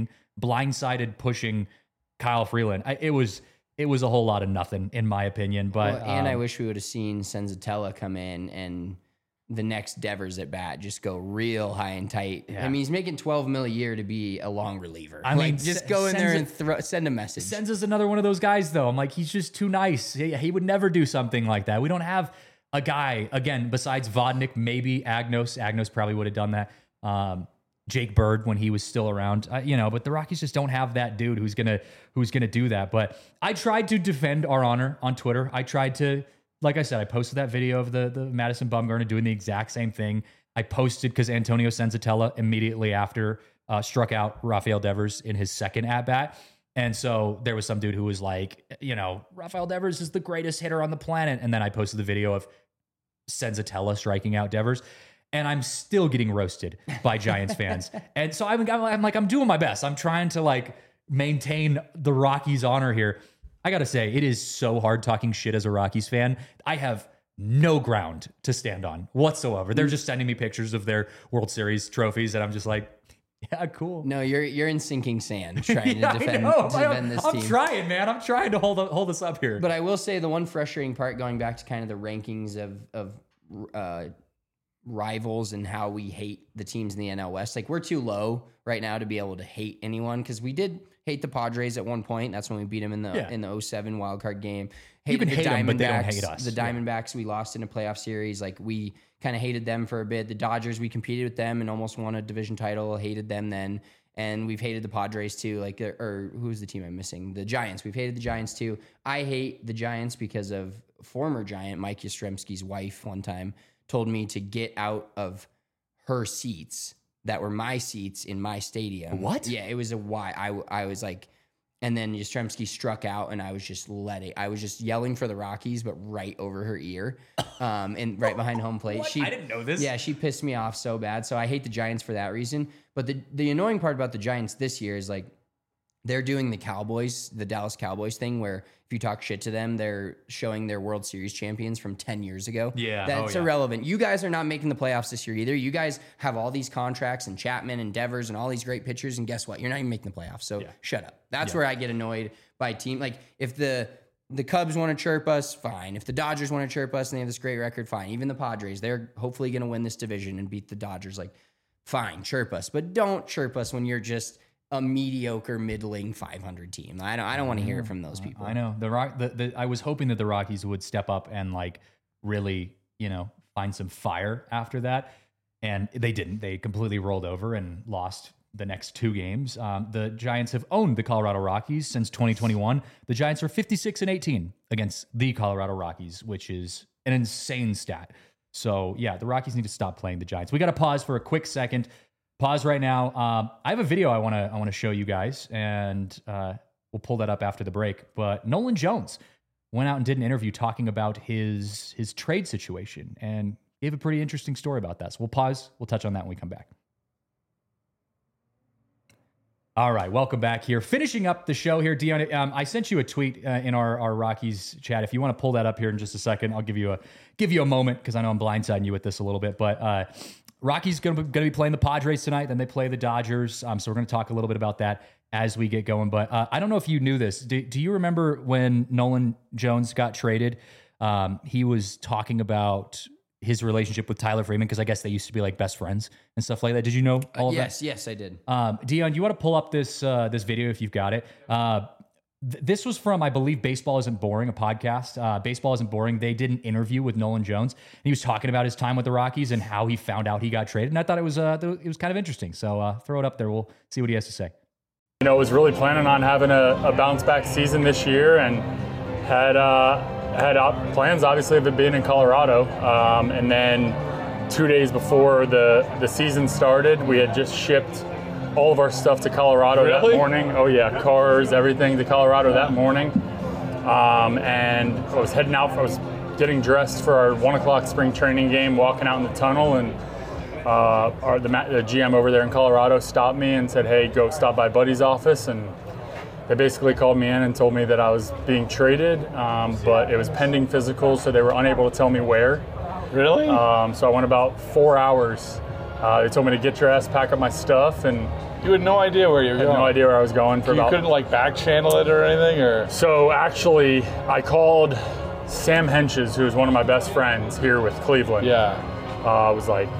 blindsided pushing Kyle Freeland. It was a whole lot of nothing, in my opinion. But I wish we would have seen Senzatella come in and the next Devers at bat just go real high and tight. Yeah. I mean, he's making $12 million a year to be a long reliever. I mean, just go in there and send a message. Senza's another one of those guys, though. I'm like, he's just too nice. He would never do something like that. We don't have a guy, again, besides Vodnik, maybe Agnos. Agnos probably would have done that. Jake Bird when he was still around, but the Rockies just don't have that dude who's gonna do that. But I tried to defend our honor on Twitter. I tried to, like I said, I posted that video of the Madison Bumgarner doing the exact same thing. I posted because Antonio Senzatella immediately after struck out Rafael Devers in his second at bat. And so there was some dude who was like, Rafael Devers is the greatest hitter on the planet. And then I posted the video of Senzatella striking out Devers. And I'm still getting roasted by Giants fans. And so I'm doing my best. I'm trying to like maintain the Rockies' honor here. I got to say, it is so hard talking shit as a Rockies fan. I have no ground to stand on whatsoever. They're just sending me pictures of their World Series trophies. And I'm just like, yeah, cool. No, you're in sinking sand trying to defend this team. I'm trying, man. I'm trying to hold us up here. But I will say the one frustrating part, going back to kind of the rankings of rivals and how we hate the teams in the NL West. Like, we're too low right now to be able to hate anyone, because we did hate the Padres at one point. That's when we beat them in the 07 wildcard game. You can hate them, but they don't hate us. The Diamondbacks, we lost in a playoff series. Like, we kind of hated them for a bit. The Dodgers, we competed with them and almost won a division title. Hated them then. And we've hated the Padres too. Like, or who's the team I'm missing? The Giants. We've hated the Giants too. I hate the Giants because of former Giant Mike Yastrzemski's wife one time told me to get out of her seats that were my seats in my stadium. What? Yeah, it was a why. I was like, and then Yastrzemski struck out, and I was just I was just yelling for the Rockies, but right over her ear, and right behind home plate. What? I didn't know this. Yeah, she pissed me off so bad. So I hate the Giants for that reason. But the annoying part about the Giants this year is, like, they're doing the Dallas Cowboys thing, where if you talk shit to them, they're showing their World Series champions from 10 years ago. Yeah. That's irrelevant. You guys are not making the playoffs this year either. You guys have all these contracts and Chapman and Devers and all these great pitchers, and guess what? You're not even making the playoffs. So shut up. That's where I get annoyed by team. Like, if the Cubs want to chirp us, fine. If the Dodgers want to chirp us and they have this great record, fine. Even the Padres, they're hopefully going to win this division and beat the Dodgers. Like, fine, chirp us. But don't chirp us when you're just a mediocre, middling 500 team. I don't want to hear it from those people. I know I was hoping that the Rockies would step up and, like, really, find some fire after that. And they didn't. They completely rolled over and lost the next 2 games. The Giants have owned the Colorado Rockies since 2021. The Giants are 56-18 against the Colorado Rockies, which is an insane stat. So, yeah, the Rockies need to stop playing the Giants. We got to pause for a quick second. Pause right now. I have a video I want to show you guys, and we'll pull that up after the break. But Nolan Jones went out and did an interview talking about his trade situation and gave a pretty interesting story about that. So we'll pause. We'll touch on that when we come back. All right, welcome back here. Finishing up the show here, Dion. I sent you a tweet in our Rockies chat. If you want to pull that up here in just a second, I'll give you a moment because I know I'm blindsiding you with this a little bit. But Rockies going to be playing the Padres tonight. Then they play the Dodgers. So we're going to talk a little bit about that as we get going. But I don't know if you knew this. Do you remember when Nolan Jones got traded? He was talking about his relationship with Tyler Freeman, because I guess they used to be like best friends and stuff like that. Did you know all of that? Yes, I did. Dion, you want to pull up this video if you've got it? This was from, I believe, Baseball Isn't Boring, a podcast. Baseball Isn't Boring. They did an interview with Nolan Jones, and he was talking about his time with the Rockies and how he found out he got traded. And I thought it was kind of interesting. So throw it up there. We'll see what he has to say. Was really planning on having a bounce back season this year, and had plans, obviously, of it being in Colorado. And then 2 days before the season started, we had just shipped all of our stuff to Colorado that morning. Oh yeah, cars, everything to Colorado that morning. And I was heading out. I was getting dressed for our 1 o'clock spring training game, walking out in the tunnel, and the GM over there in Colorado stopped me and said, "Hey, go stop by Buddy's office." And they basically called me in and told me that I was being traded, but it was pending physical, so they were unable to tell me where. Really? So I went about 4 hours. They told me to get your ass, pack up my stuff, and you had no idea where you were going. No idea where I was going for. You couldn't like back channel it or anything, or? So actually, I called Sam Henches, who is one of my best friends here with Cleveland. Yeah. Was like,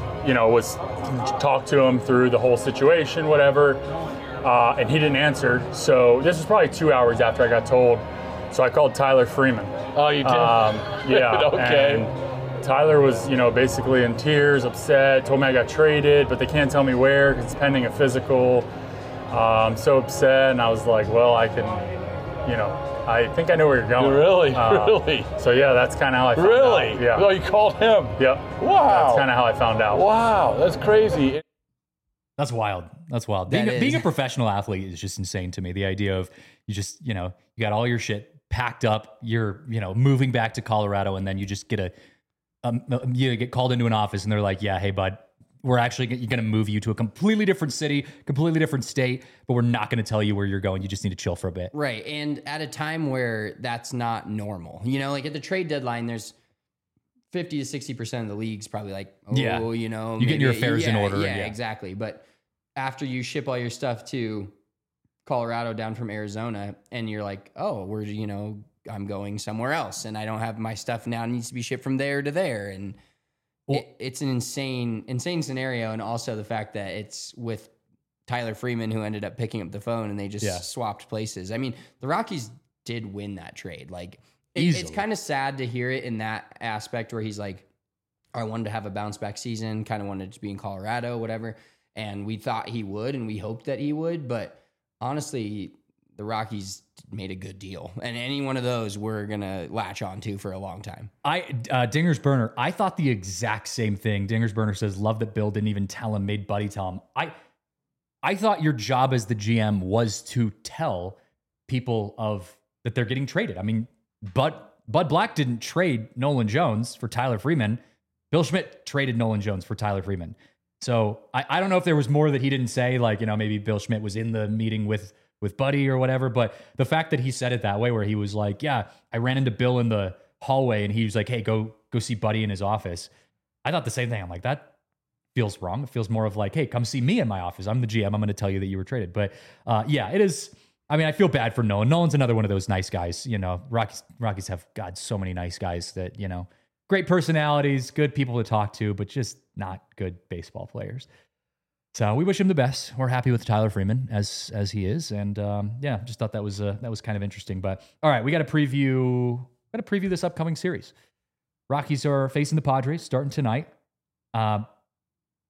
talked to him through the whole situation, whatever. And he didn't answer. So this was probably 2 hours after I got told. So I called Tyler Freeman. Oh, you did? Yeah. Okay. And Tyler was, basically in tears, upset, told me I got traded, but they can't tell me where because it's pending a physical. So upset, and I was like, well, I can, I think I know where you're going. Really? Really? So yeah, that's kind of how I found out. Really? Yeah. Oh, you called him? Yep. Wow. That's kind of how I found out. Wow, that's crazy. That's wild. That's wild. Being a professional athlete is just insane to me. The idea of you just, you got all your shit packed up, you're, moving back to Colorado, and then you just get you get called into an office and they're like, yeah, hey, bud, we're actually going to move you to a completely different city, completely different state, but we're not going to tell you where you're going. You just need to chill for a bit. Right. And at a time where that's not normal, like at the trade deadline, there's 50 to 60% of the leagues probably like, you get your affairs in order. Yeah, exactly. But after you ship all your stuff to Colorado down from Arizona and you're like, oh, I'm going somewhere else and I don't have my stuff now, it needs to be shipped from there to there. And it's an insane scenario. And also the fact that it's with Tyler Freeman, who ended up picking up the phone, and they just swapped places. I mean, the Rockies did win that trade. Like, it's kind of sad to hear it in that aspect where he's like, I wanted to have a bounce back season, kind of wanted to be in Colorado, whatever. And we thought he would, and we hoped that he would. But honestly, the Rockies made a good deal. And any one of those we're going to latch on to for a long time. Dinger's Burner, I thought the exact same thing. Dinger's Burner says, love that Bill didn't even tell him, made Buddy tell him. I thought your job as the GM was to tell people that they're getting traded. I mean, Bud Black didn't trade Nolan Jones for Tyler Freeman. Bill Schmidt traded Nolan Jones for Tyler Freeman. So I don't know if there was more that he didn't say, like, maybe Bill Schmidt was in the meeting with Buddy or whatever, but the fact that he said it that way, where he was like, yeah, I ran into Bill in the hallway and he was like, hey, go see Buddy in his office. I thought the same thing. I'm like, that feels wrong. It feels more of like, hey, come see me in my office. I'm the GM. I'm going to tell you that you were traded. But yeah, it is. I mean, I feel bad for Nolan. Nolan's another one of those nice guys. Rockies have, God, so many nice guys that, great personalities, good people to talk to, but just not good baseball players. So we wish him the best. We're happy with Tyler Freeman as he is, and just thought that was kind of interesting. But all right, we got to preview this upcoming series. Rockies are facing the Padres starting tonight. I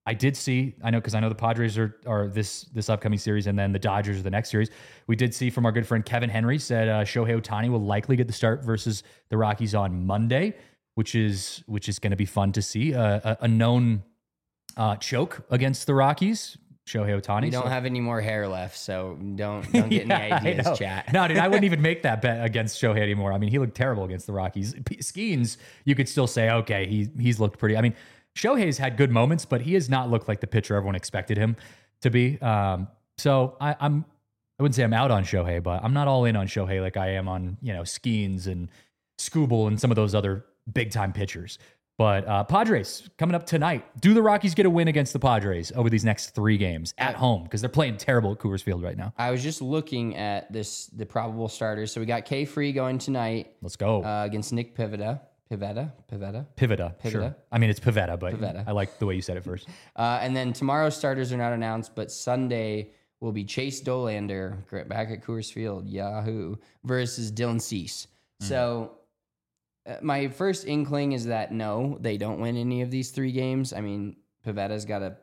I did see, I know the Padres are this upcoming series, and then the Dodgers are the next series. We did see from our good friend Kevin Henry said Shohei Ohtani will likely get the start versus the Rockies on Monday, which is going to be fun to see. A known choke against the Rockies, Shohei Ohtani. We don't have any more hair left, so don't get any ideas, chat. No, dude, I wouldn't even make that bet against Shohei anymore. I mean, he looked terrible against the Rockies. Skeens, you could still say, okay, he's looked pretty. I mean, Shohei's had good moments, but he has not looked like the pitcher everyone expected him to be. So I wouldn't say I'm out on Shohei, but I'm not all in on Shohei like I am on, Skeens and Skubal and some of those other big time pitchers. But Padres coming up tonight. Do the Rockies get a win against the Padres over these next 3 games at home? Because they're playing terrible at Coors Field right now. I was just looking at the probable starters. So we got K Free going tonight. Let's go. Against Nick Pivetta. Pivetta. Sure. I mean, it's Pivetta, but Pivetta. I like the way you said it first. And then tomorrow's starters are not announced, but Sunday will be Chase Dolander back at Coors Field, Yahoo, versus Dylan Cease. So my first inkling is that no, they don't win any of these 3 games. I mean, Pivetta's got a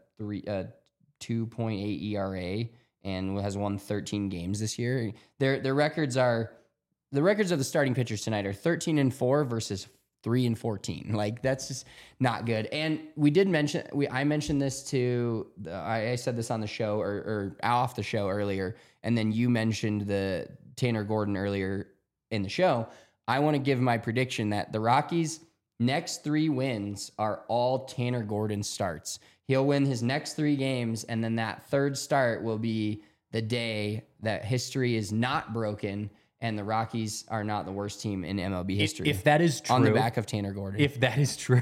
2.8 ERA and has won 13 games this year. Their records of the starting pitchers tonight are 13-4 versus 3-14. Like, that's just not good. And we did mention, I mentioned this to, I said this on the show or off the show earlier, and then you mentioned the Tanner Gordon earlier in the show. I want to give my prediction that the Rockies' next 3 wins are all Tanner Gordon starts. He'll win his next 3 games, and then that 3rd start will be the day that history is not broken and the Rockies are not the worst team in MLB history. If that is true, on the back of Tanner Gordon. If that is true,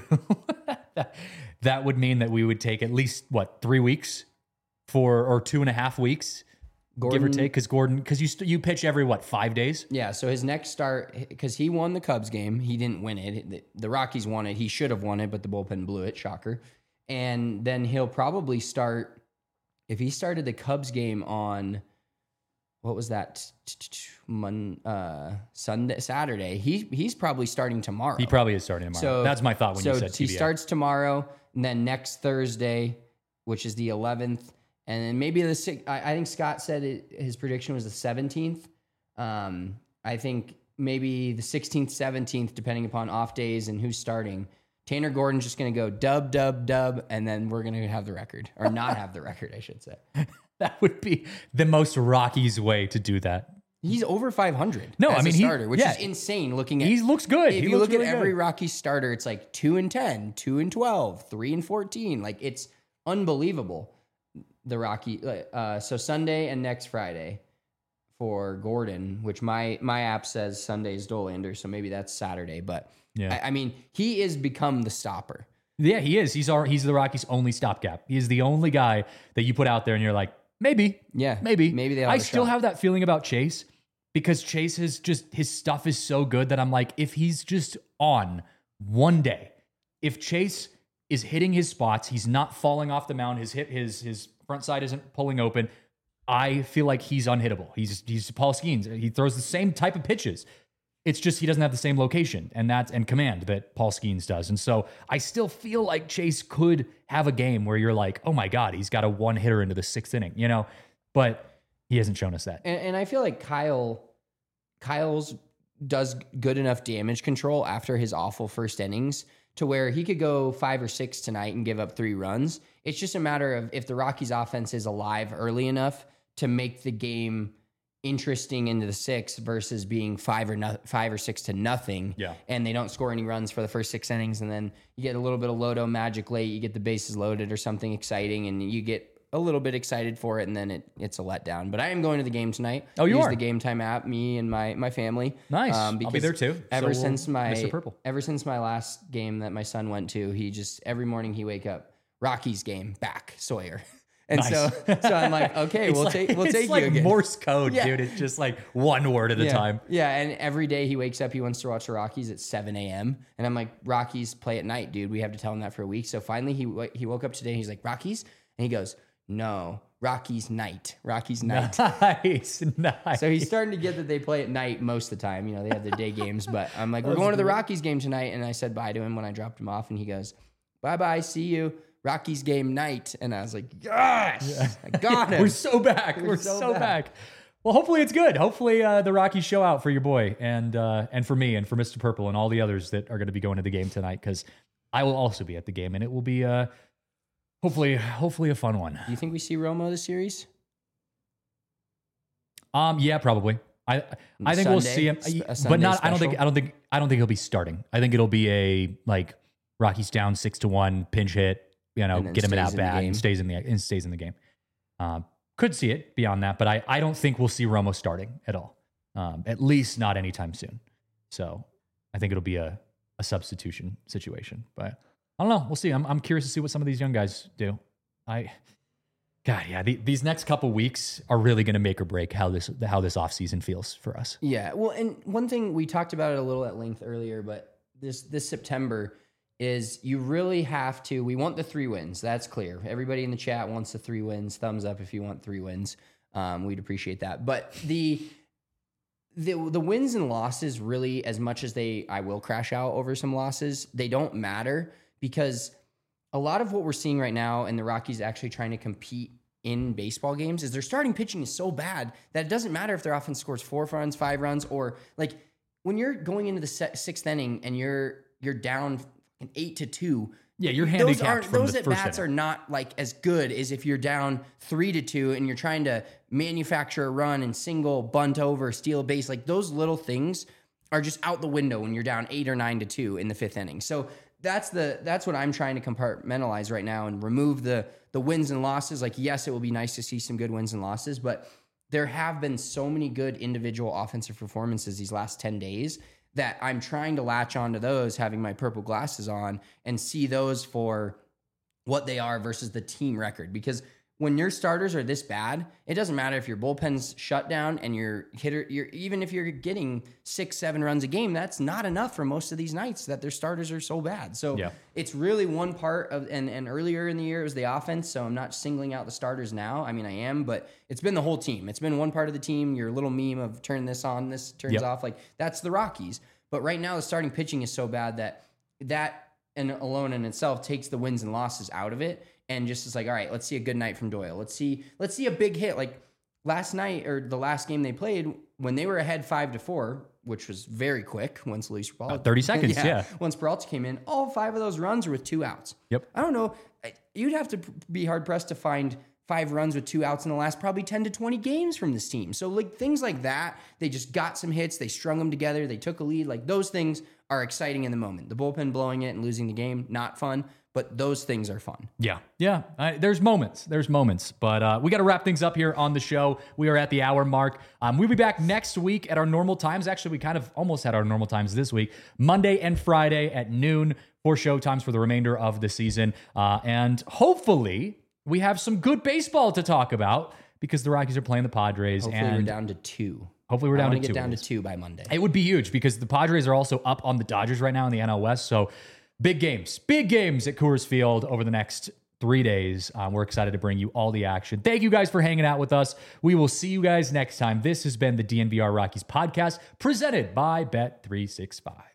that would mean that we would take at least 3 weeks or 2.5 weeks, Gordon, give or take, because you pitch every 5 days? Yeah, so his next start, because he won the Cubs game, he didn't win it. The Rockies won it. He should have won it, but the bullpen blew it. Shocker. And then he'll probably start, if he started the Cubs game on, what was that, Sunday, Saturday, he's probably starting tomorrow. He probably is starting tomorrow. So that's my thought when you said TBA. He starts tomorrow, and then next Thursday, which is the 11th, and then maybe the 6th. I think Scott said his prediction was the 17th. I think maybe the 16th, 17th, depending upon off days and who's starting. Tanner Gordon's just going to go dub, and then we're going to have the record. Or not have the record, I should say. That would be the most Rockies way to do that. He's over 500 no, as I mean, a starter, which is insane looking at. He looks good. If you look at every Rockies starter, it's like 2-10, 2-12, 3-14. Like, it's unbelievable. The Rocky. So Sunday and next Friday for Gordon, which my app says Sunday is Dolander, so maybe that's Saturday. But yeah, I mean, he has become the stopper. Yeah, he is. He's the Rockies' only stopgap. He is the only guy that you put out there and you're like, maybe. Maybe I still have that feeling about Chase because Chase is just, his stuff is so good that I'm like, if he's just on one day, if Chase is hitting his spots, he's not falling off the mound, his front side isn't pulling open, I feel like he's unhittable. He's Paul Skeens. He throws the same type of pitches. It's just he doesn't have the same location and command that Paul Skeens does. And so I still feel like Chase could have a game where you're like, oh my God, he's got a one hitter into the 6th inning, but he hasn't shown us that. And I feel like Kyle's does good enough damage control after his awful first innings to where he could go 5 or 6 tonight and give up 3 runs. It's just a matter of if the Rockies offense is alive early enough to make the game interesting into the 6th versus being 5 or 6 to nothing. Yeah. And they don't score any runs for the first 6 innings. And then you get a little bit of Lodo magic late, you get the bases loaded or something exciting and you get a little bit excited for it, and then it's a letdown. But I am going to the game tonight. Oh, you Use are? the Game Time app, me and my family. Nice. I'll be there too. Ever since Mr. my last game that my son went to, he just every morning he wake up, Rockies game back, Sawyer. And nice. so I'm like, okay, we'll take you again. It's like Morse code, dude. It's just like one word at a time. Yeah, and every day he wakes up, he wants to watch the Rockies at 7 a.m. And I'm like, Rockies play at night, dude. We have to tell him that for a week. So finally he woke up today and he's like, Rockies? And he goes, no, Rockies night. Nice. So he's starting to get that they play at night most of the time. They have their day games. But I'm like, we're going to the Rockies game tonight. And I said bye to him when I dropped him off. And he goes, bye-bye, see you. Rockies game night. And I was like, yes, I got him. We're so back. We're so back. Well, hopefully it's good. Hopefully the Rockies show out for your boy and for me and for Mr. Purple and all the others that are going to be going to the game tonight, because I will also be at the game, and it will be hopefully a fun one. Do you think we see Romo this series? Yeah, probably. I think we'll see him, but not. I don't think he'll be starting. I think it'll be a like Rockies down 6-1 pinch hit. You know, get him an at bat and stays in the game. Could see it beyond that, but I don't think we'll see Romo starting at all. At least not anytime soon. So I think it'll be a substitution situation. But I don't know. We'll see. I'm curious to see what some of these young guys do. These next couple weeks are really going to make or break how this offseason feels for us. Yeah. Well, and one thing we talked about it a little at length earlier, but this September is you really have to, we want the 3 wins. That's clear. Everybody in the chat wants the 3 wins. Thumbs up if you want 3 wins. We'd appreciate that. But the wins and losses really, as much as I will crash out over some losses, they don't matter, because a lot of what we're seeing right now and the Rockies actually trying to compete in baseball games is their starting pitching is so bad that it doesn't matter if their offense scores 4 runs, 5 runs, or like when you're going into the 6th inning and you're down 8-2. Yeah, you're handicapped. Those at bats are not like as good as if you're down 3-2 and you're trying to manufacture a run and single, bunt over, steal a base. Like those little things are just out the window when you're down 8 or 9-2 in the 5th inning. So that's what I'm trying to compartmentalize right now and remove the wins and losses. Like, yes, it will be nice to see some good wins and losses, but there have been so many good individual offensive performances these last 10 days that I'm trying to latch onto those, having my purple glasses on, and see those for what they are versus the team record. Because when your starters are this bad, it doesn't matter if your bullpen's shut down and your hitter, even if you're getting 6-7 runs a game, that's not enough for most of these nights that their starters are so bad. So It's really one part of, and earlier in the year it was the offense. So I'm not singling out the starters now. I mean, I am, but it's been the whole team. It's been one part of the team. Your little meme of turn this on, this turns off. Like that's the Rockies. But right now the starting pitching is so bad that and alone in itself takes the wins and losses out of it. And just is like, all right, let's see a good night from Doyle. Let's see a big hit. Like last night or the last game they played when they were ahead 5-4, which was very quick once Luis Peralta. 30 seconds, yeah. Once Peralta came in, all 5 of those runs were with 2 outs. Yep. I don't know. You'd have to be hard pressed to find 5 runs with 2 outs in the last probably 10 to 20 games from this team. So like things like that, they just got some hits. They strung them together. They took a lead. Like those things are exciting in the moment. The bullpen blowing it and losing the game, not fun. But those things are fun. Yeah. There's moments, but we got to wrap things up here on the show. We are at the hour mark. We'll be back next week at our normal times. Actually, we kind of almost had our normal times this week, Monday and Friday at noon for show times for the remainder of the season. And hopefully we have some good baseball to talk about because the Rockies are playing the Padres. Hopefully we're down to 2. Hopefully we're down to 2. Get down to 2 by Monday. It would be huge because the Padres are also up on the Dodgers right now in the NL West. So big games at Coors Field over the next 3 days. We're excited to bring you all the action. Thank you guys for hanging out with us. We will see you guys next time. This has been the DNVR Rockies podcast presented by Bet365.